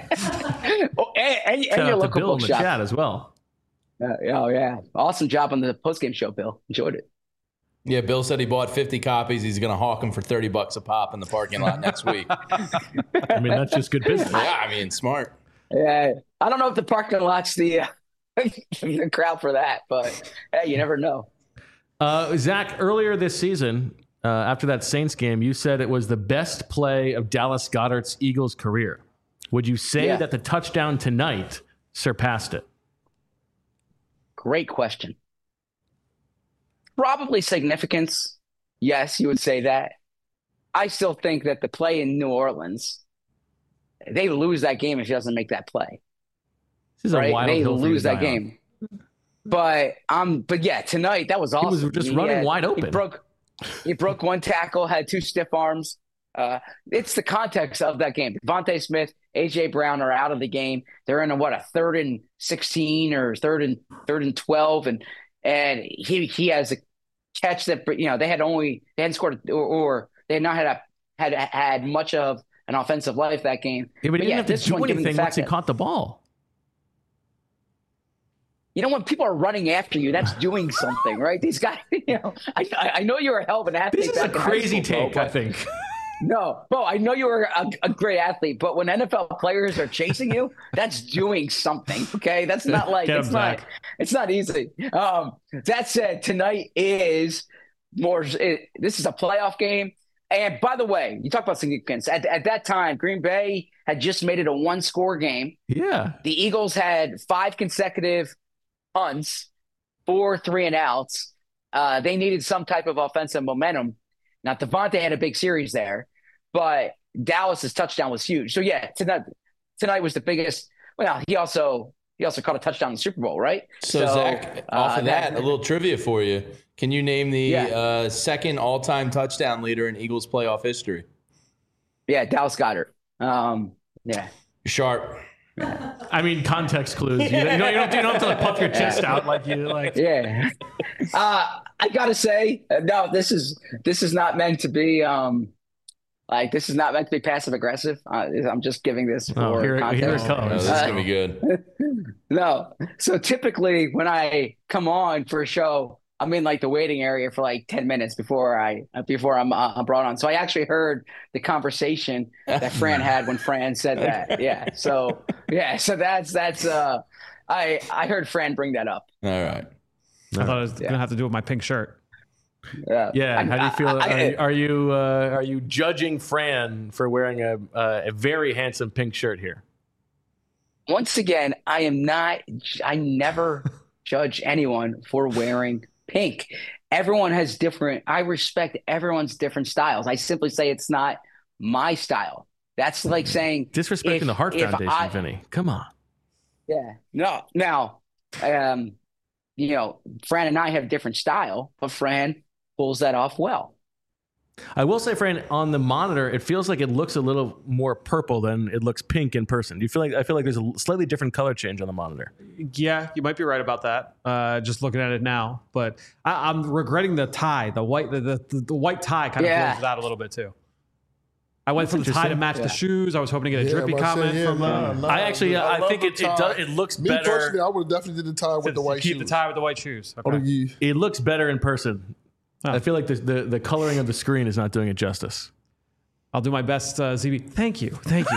and Shout your out local to Bill in book the shop. chat as well. Oh yeah, awesome job on the postgame show, Bill. Enjoyed it. Yeah, Bill said he bought 50 copies. He's going to hawk them for $30 a pop in the parking lot next week. I mean, that's just good business. Yeah, I mean, smart. Yeah, I don't know if the parking lot's the crowd for that, but hey, you never know. Zach, earlier this season, after that Saints game, you said it was the best play of Dallas Goedert's Eagles career. Would you say that the touchdown tonight surpassed it? Great question. Probably significance. Yes, you would say that. I still think that the play in New Orleans, they lose that game if he doesn't make that play. This is a wild They hill for you lose to that die game. But yeah, tonight that was awesome. He was just running wide open. He broke one tackle, had two stiff arms. It's the context of that game. Devontae Smith, AJ Brown are out of the game. They're in a 3rd and 16 or third and 12, and he has a catch that they hadn't scored or they had not had much of an offensive life that game. Yeah, but he didn't have to do anything once he caught the ball. When people are running after you, that's doing something, right? These guys, I know you're a hell of an athlete. This is a crazy take, I think. No, Bo, I know you were a great athlete, but when NFL players are chasing you, that's doing something. Okay, that's not like it's not easy. That said, tonight is more. This is a playoff game, and by the way, you talk about significance. At that time, Green Bay had just made it a 1-score game. Yeah, the Eagles had 5 consecutive punts, 4 3-and-outs. They needed some type of offensive momentum. Now, Devontae had a big series there, but Dallas's touchdown was huge. So, yeah, tonight was the biggest. Well, he also caught a touchdown in the Super Bowl, right? So Zach, off of that, a little trivia for you. Can you name the second all-time touchdown leader in Eagles playoff history? Yeah, Dallas Goedert. Yeah. Sharp. I mean, context clues. You don't have to puff your chest out like you like. Yeah. I gotta say, no. This is not meant to be. This is not meant to be passive aggressive. I'm just giving this for context. Here it comes. This is gonna be good. No. So typically, when I come on for a show, I'm in the waiting area for 10 minutes before I'm brought on. So I actually heard the conversation that Fran had when Fran said that. Yeah. So that's I heard Fran bring that up. All right. I thought it was going to have to do with my pink shirt. Yeah. How do you feel? Are you judging Fran for wearing a very handsome pink shirt here? Once again, I never judge anyone for wearing pink. Everyone has different. I respect everyone's different styles. I simply say it's not my style. That's like saying disrespecting the Heart Foundation, Vinny. Come on. Yeah. No. Now, Fran and I have different style, but Fran pulls that off well. I will say, Fran, on the monitor, it feels like it looks a little more purple than it looks pink in person. Do you feel like? I feel like there's a slightly different color change on the monitor. Yeah, you might be right about that. Just looking at it now, but I'm regretting the tie. The white tie kind of blows it out a little bit too. I went for the tie to match the shoes. I was hoping to get a drippy comment from I think it looks Me better. personally, I would have definitely did the tie with the white shoes. Keep the tie with the white shoes. Okay. It looks better in person. I feel like the coloring of the screen is not doing it justice. I'll do my best, ZB. Thank you.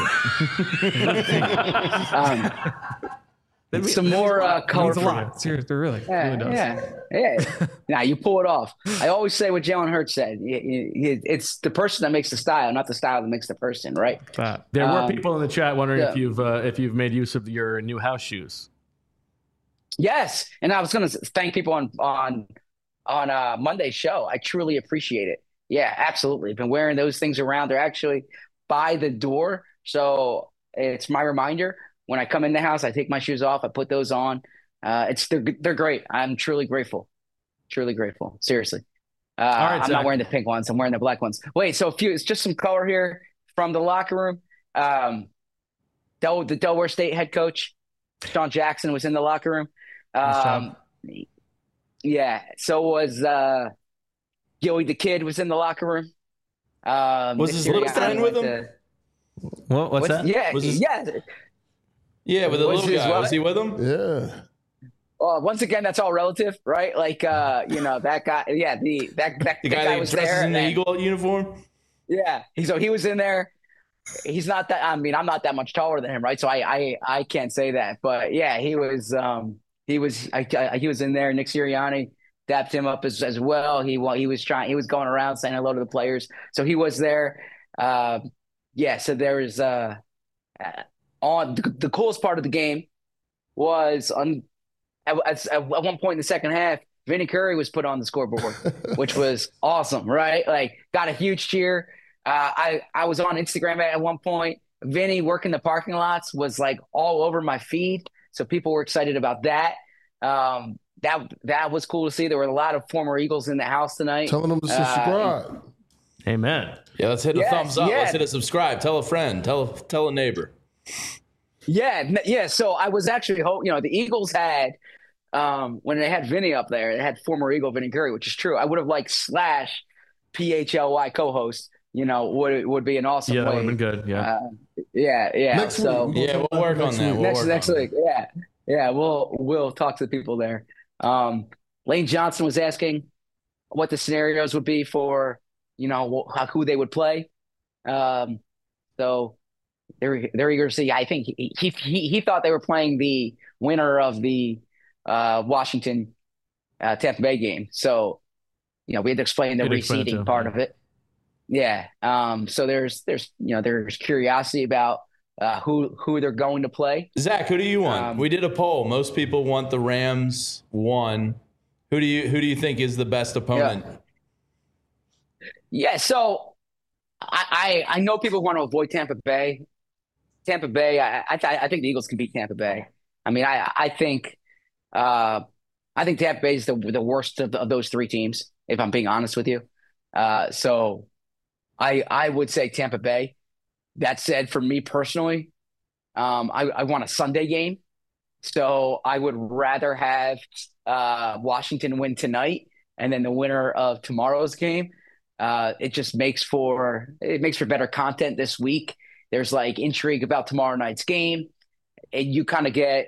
Some more color. Means a lot. Seriously, really. It really does. Yeah. Now you pull it off. I always say what Jalen Hurts said. It's the person that makes the style, not the style that makes the person, right? There were people in the chat wondering if you've made use of your new house shoes. Yes, and I was going to thank people on Monday's show. I truly appreciate it. Yeah, absolutely. I've been wearing those things around. They're actually by the door, so it's my reminder. When I come in the house, I take my shoes off. I put those on. They're great. I'm truly grateful. Truly grateful. Seriously. All right, I'm not wearing the pink ones. I'm wearing the black ones. Wait, so it's just some color here from the locker room. The Delaware State head coach, Sean Jackson, was in the locker room. Yeah. So was Gilly the Kid was in the locker room. Was his little friend with him? What's that? Yeah. Yeah, with the little guy. Was he with him? Yeah. Once again, that's all relative, right? Like, that guy. Yeah, the guy was there in the Eagle uniform. Yeah, he was in there. He's not that. I mean, I'm not that much taller than him, right? So I can't say that. But yeah, he was in there. Nick Sirianni dapped him up as well. He was going around saying hello to the players. So he was there. Yeah. So there was on the coolest part of the game was at one point in the second half, Vinny Curry was put on the scoreboard, which was awesome, right? Like, got a huge cheer. I was on Instagram at one point. Vinny working the parking lots was like all over my feed, so people were excited about that. That was cool to see. There were a lot of former Eagles in the house tonight. Telling them to subscribe. Amen. Yeah, let's hit a thumbs up. Let's hit a subscribe. Tell a friend. Tell a neighbor. Yeah. So I was actually, the Eagles had, when they had Vinny up there, they had former Eagle Vinny Curry, which is true. I would have liked / PHLY co-host, would be an awesome way. Yeah, that would have been good. Yeah. Yeah. Next week. We'll work on that. Next week. Yeah. We'll talk to the people there. Lane Johnson was asking what the scenarios would be for, who they would play. So they're eager to see. I think he thought they were playing the winner of the Washington Tampa Bay game. So, we had to explain the reseeding part of it. Yeah. So there's curiosity about who they're going to play. Zach, who do you want? We did a poll. Most people want the Rams 1. Who do you think is the best opponent? Yeah. So I know people want to avoid Tampa Bay. I think the Eagles can beat Tampa Bay. I mean, I think Tampa Bay is the worst of those three teams, if I'm being honest with you. So I would say Tampa Bay. That said, for me personally, I want a Sunday game. So I would rather have Washington win tonight and then the winner of tomorrow's game. It just makes for better content this week. There's like intrigue about tomorrow night's game. And you kind of get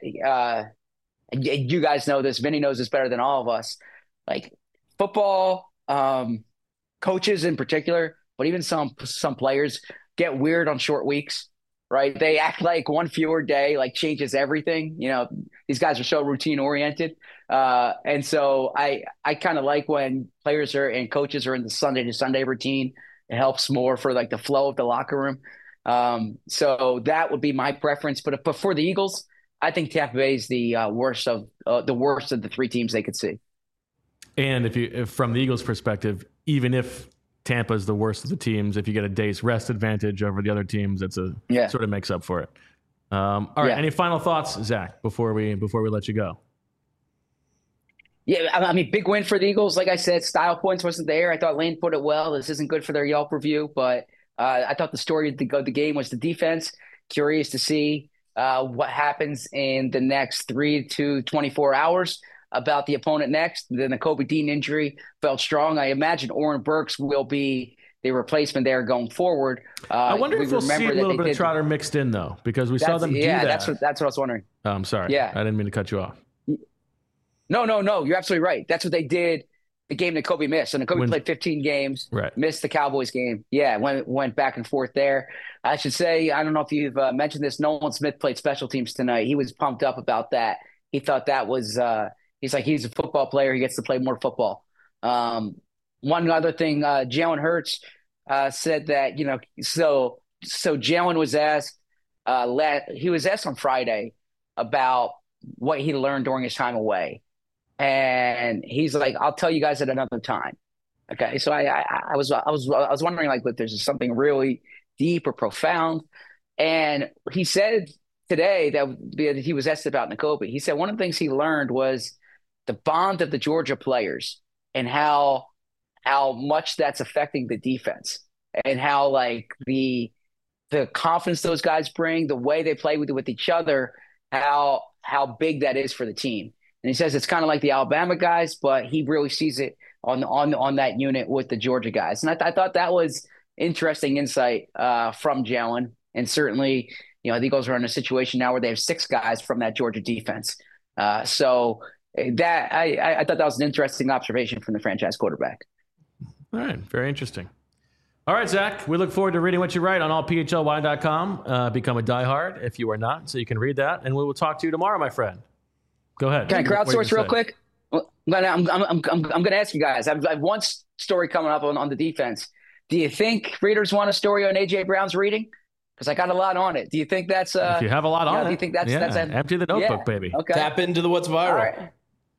you guys know this. Vinny knows this better than all of us. Like football, coaches in particular, but even some players get weird on short weeks, right? They act like one fewer day like changes everything. These guys are so routine oriented. And so I kind of like when players and coaches are in the Sunday to Sunday routine. It helps more for like the flow of the locker room. So that would be my preference. But for the Eagles, I think Tampa Bay is the worst of the three teams they could see. And if from the Eagles' perspective, even if Tampa is the worst of the teams, if you get a day's rest advantage over the other teams, sort of makes up for it. All right. Any final thoughts, Zach, before we let you go? Yeah, I mean, big win for the Eagles. Like I said, style points wasn't there. I thought Lane put it well. This isn't good for their Yelp review, but I thought the story of the game was the defense. Curious to see what happens in the next 3 to 24 hours about the opponent next. Then the Kobe Dean injury felt strong. I imagine Oren Burks will be the replacement there going forward. I wonder if we'll see a little bit of Trotter mixed in, though, because we saw them do that. Yeah, that's what I was wondering. Oh, I'm sorry. Yeah. I didn't mean to cut you off. No. You're absolutely right. That's what they did the game that Kobe missed. So Kobe played 15 games, missed the Cowboys game. Yeah, went back and forth there. I should say, I don't know if you've mentioned this, Nolan Smith played special teams tonight. He was pumped up about that. He thought that was he's a football player. He gets to play more football. One other thing, Jalen Hurts said that, so Jalen was asked, he was asked on Friday about what he learned during his time away. And he's like, I'll tell you guys at another time. Okay. So I was wondering, like, if there's something really deep or profound. And he said today that he was asked about Nakobe. He said one of the things he learned was the bond of the Georgia players and how much that's affecting the defense, and how, like, the confidence those guys bring, the way they play with each other, how big that is for the team. And he says it's kind of like the Alabama guys, but he really sees it on that unit with the Georgia guys. And I thought that was interesting insight from Jalen. And certainly, the Eagles are in a situation now where they have 6 guys from that Georgia defense. So that I thought that was an interesting observation from the franchise quarterback. All right. Very interesting. All right, Zach, we look forward to reading what you write on allphy.com. Become a diehard if you are not, so you can read that. And we will talk to you tomorrow, my friend. Go ahead. Can I crowdsource real quick? I'm going to ask you guys. I have one story coming up on the defense. Do you think readers want a story on A.J. Brown's reading? Because I got a lot on it. Do you think that's if you have a lot on it? Do you think that's empty the notebook, baby. Okay. Tap into the what's viral. Right.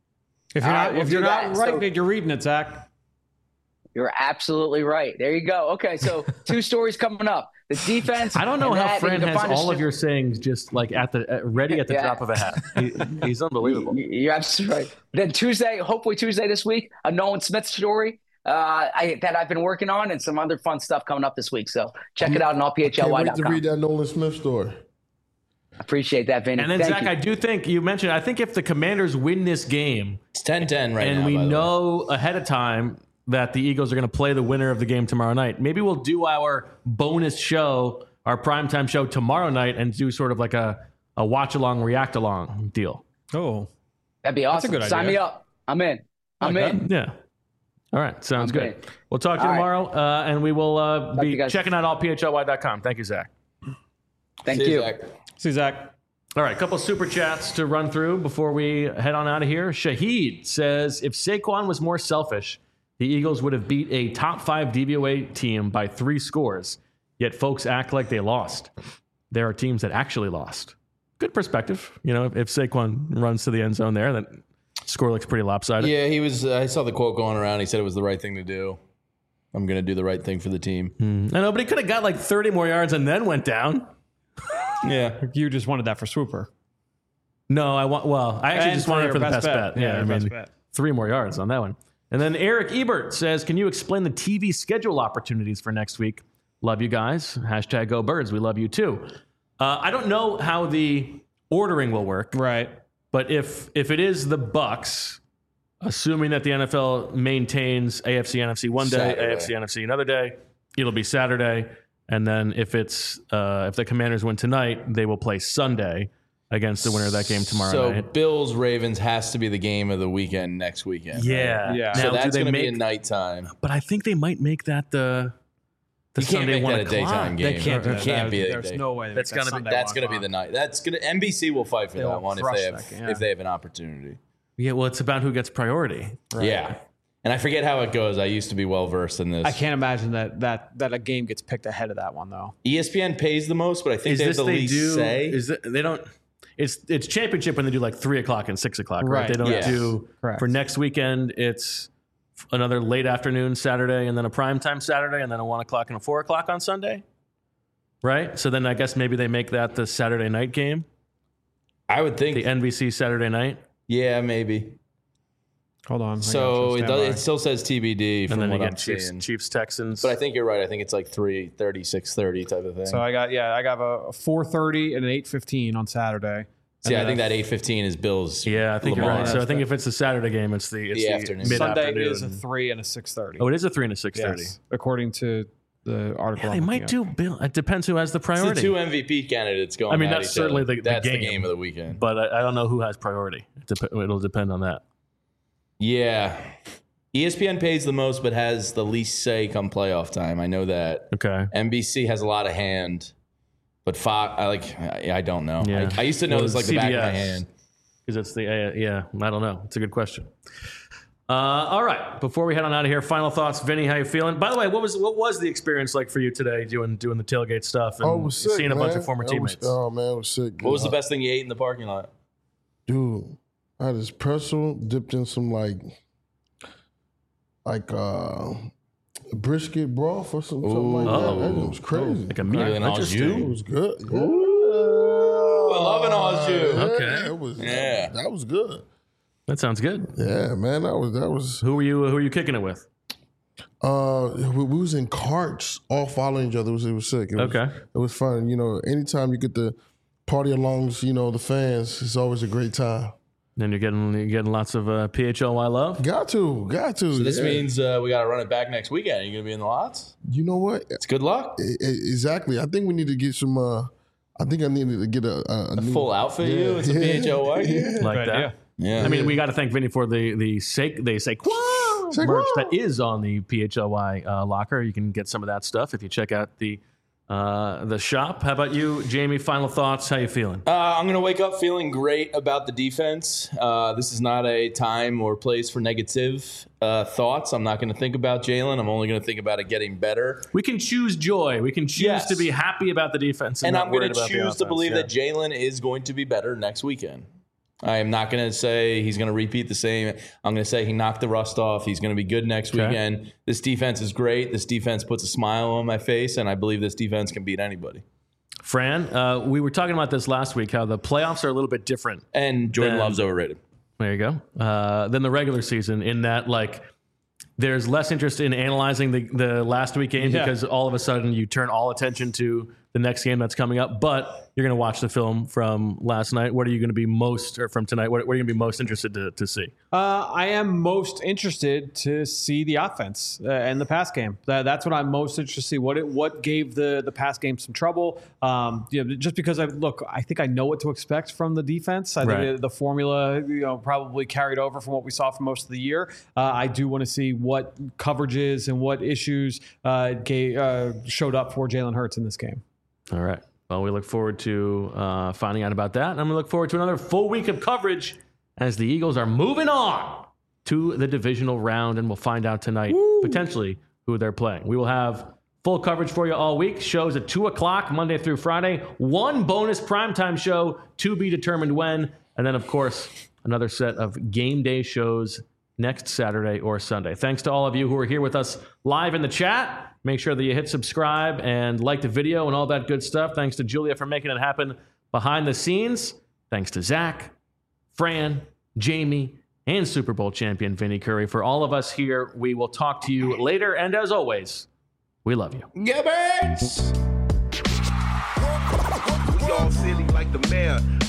If you're not right, you're reading it, Zach. You're absolutely right. There you go. Okay, so 2 stories coming up. The defense. I don't know how Fran has all of your sayings just like ready at the drop of a hat. He's unbelievable. You're absolutely right. Then hopefully Tuesday this week, a Nolan Smith story that I've been working on, and some other fun stuff coming up this week. So check it out on allphly.com. Can't wait to read that Nolan Smith story. Appreciate that, Vinny. And then, Zach, I do think you mentioned, I think if the Commanders win this game, it's 10-10 right now. And we know ahead of time that the Eagles are going to play the winner of the game tomorrow night. Maybe we'll do our bonus show, our primetime show tomorrow night, and do sort of like a watch-along, react-along deal. Oh. That'd be awesome. That's a good idea. Sign me up. I'm in. I'm in. Yeah. All right. Sounds good. We'll talk to you tomorrow, and we will be checking out allphly.com. Thank you, Zach. Thank you. Zach. See you, Zach. All right, a couple of super chats to run through before we head on out of here. Shahid says, if Saquon was more selfish, the Eagles would have beat a top 5 DVOA team by 3 scores, yet folks act like they lost. There are teams that actually lost. Good perspective. If Saquon runs to the end zone there, that score looks pretty lopsided. Yeah, he was. I saw the quote going around. He said it was the right thing to do. I'm going to do the right thing for the team. I know, but he could have got like 30 more yards and then went down. Yeah. You just wanted that for Swooper. No, I actually just wanted it for the best bet. Yeah, best bet. 3 more yards on that one. And then Eric Ebert says, can you explain the TV schedule opportunities for next week? Love you guys. # Go Birds. We love you too. I don't know how the ordering will work. Right. But if it is the Bucs, assuming that the NFL maintains AFC, NFC one day, Saturday. AFC, NFC another day, it'll be Saturday. And then if the Commanders win tonight, they will play Sunday against the winner of that game tomorrow night. So Bills Ravens has to be the game of the weekend next weekend. Yeah. Right? Yeah. So that's going to be a nighttime. But I think they might make that the Sunday 1 o'clock. Daytime game. They can't. It can't be. There's no way. That's going to be the night. NBC will fight for that one if they have an opportunity. Yeah. Well, it's about who gets priority. Right? Yeah. And I forget how it goes. I used to be well versed in this. I can't imagine that a game gets picked ahead of that one though. ESPN pays the most, but I think they have the least say. They don't. It's championship when they do like 3 o'clock and 6 o'clock, right? They don't do for next weekend. It's another late afternoon Saturday, and then a primetime Saturday, and then a 1 o'clock and a 4 o'clock on Sunday, right? So then I guess maybe they make that the Saturday night game. I would think the NBC Saturday night. Yeah, maybe. Hold on. So it still says TBD. And then you get Chiefs Texans. But I think you're right. I think it's like 3:30, 6:30 type of thing. So I got a 4:30 and an 8:15 on Saturday. See, I think that 8:15 is Bills. Yeah, I think you're Lamar. right. So I think if it's a Saturday game, it's the afternoon. Sunday mid-afternoon. is a 3 and a 6:30. Oh, it is a 3 and a 6:30. Yes, according to the article. They might do Bill. It depends who has the It's priority. the two MVP candidates going. I mean, at that's each certainly other. the That's game. the game of the weekend. But I don't know who has priority. It'll depend on that. Yeah. ESPN pays the most, but has the least say come playoff time. I know that. Okay. NBC has a lot of hand, but Fox, I don't know. Yeah. I used to know Well, this like the back of my CBS. hand. Because it's yeah, I don't know. It's a good question. All right. Before we head on out of here, final thoughts, Vinny. How you feeling? By the way, what was the experience like for you today doing the tailgate stuff and Oh, it was sick, seeing a bunch man. of former It teammates? Oh man, it was sick. What was the best thing you ate in the parking lot? Dude, I had this pretzel dipped in some like brisket broth or something like that. That was crazy. Like a meat. Better than au Interesting. jus? It was good. Yeah. I love an au jus. Okay. It was. Yeah. That was good. That sounds good. Yeah, man. That was. Who were you kicking it with? We was in carts, all following each other. It was sick. It was, Okay. It was fun. You know, anytime you get to party alongs, you know, the fans, it's always a great time. Then you're getting lots of PHLY love. Got to. So this yeah. means we got to run it back next weekend. Are you going to be in the lots? You know what? It's good luck. Exactly. I think we need to get some. I think I needed to get a new, Full outfit, you? It's a PHLY gear? Like that. idea. Yeah. I mean, we got to thank Vinny for the Saquon merch that is on the PHLY locker. You can get some of that stuff if you check out the shop. How about you, Jamie? Final thoughts. How you feeling? I'm going to wake up feeling great about the defense. This is not a time or place for negative thoughts. I'm not going to think about Jalen. I'm only going to think about it getting better. We can choose joy. We can choose Yes. to be happy about the defense, and I'm going to choose to believe that Jalen is going to be better next weekend. I am not going to say he's going to repeat the same. I'm going to say he knocked the rust off. He's going to be good next weekend. This defense is great. This defense puts a smile on my face, and I believe this defense can beat anybody. Fran, we were talking about this last week, how the playoffs are a little bit different. And Jordan Love's overrated. There you go. Than the regular season, in that there's less interest in analyzing the last week game because all of a sudden you turn all attention to the next game that's coming up. But you're going to watch the film from last night. What are you going to be from tonight? What are you going to be most interested to see? I am most interested to see the offense and the pass game. That's what I'm most interested to see. What gave the pass game some trouble? Just because I think I know what to expect from the defense. I think the formula, probably carried over from what we saw for most of the year. I do want to see what coverages and what issues showed up for Jalen Hurts in this game. All right. Well, we look forward to finding out about that. And I'm going to look forward to another full week of coverage as the Eagles are moving on to the divisional round. And we'll find out tonight, potentially, who they're playing. We will have full coverage for you all week. Shows at 2 o'clock, Monday through Friday. One bonus primetime show to be determined when. And then, of course, another set of game day shows next Saturday or Sunday. Thanks to all of you who are here with us live in the chat. Make sure that you hit subscribe and like the video and all that good stuff. Thanks to Julia for making it happen behind the scenes. Thanks to Zach, Fran, Jamie, and Super Bowl champion Vinny Curry. For all of us here, we will talk to you later. And as always, we love you. Gibbons! We all silly like the mayor.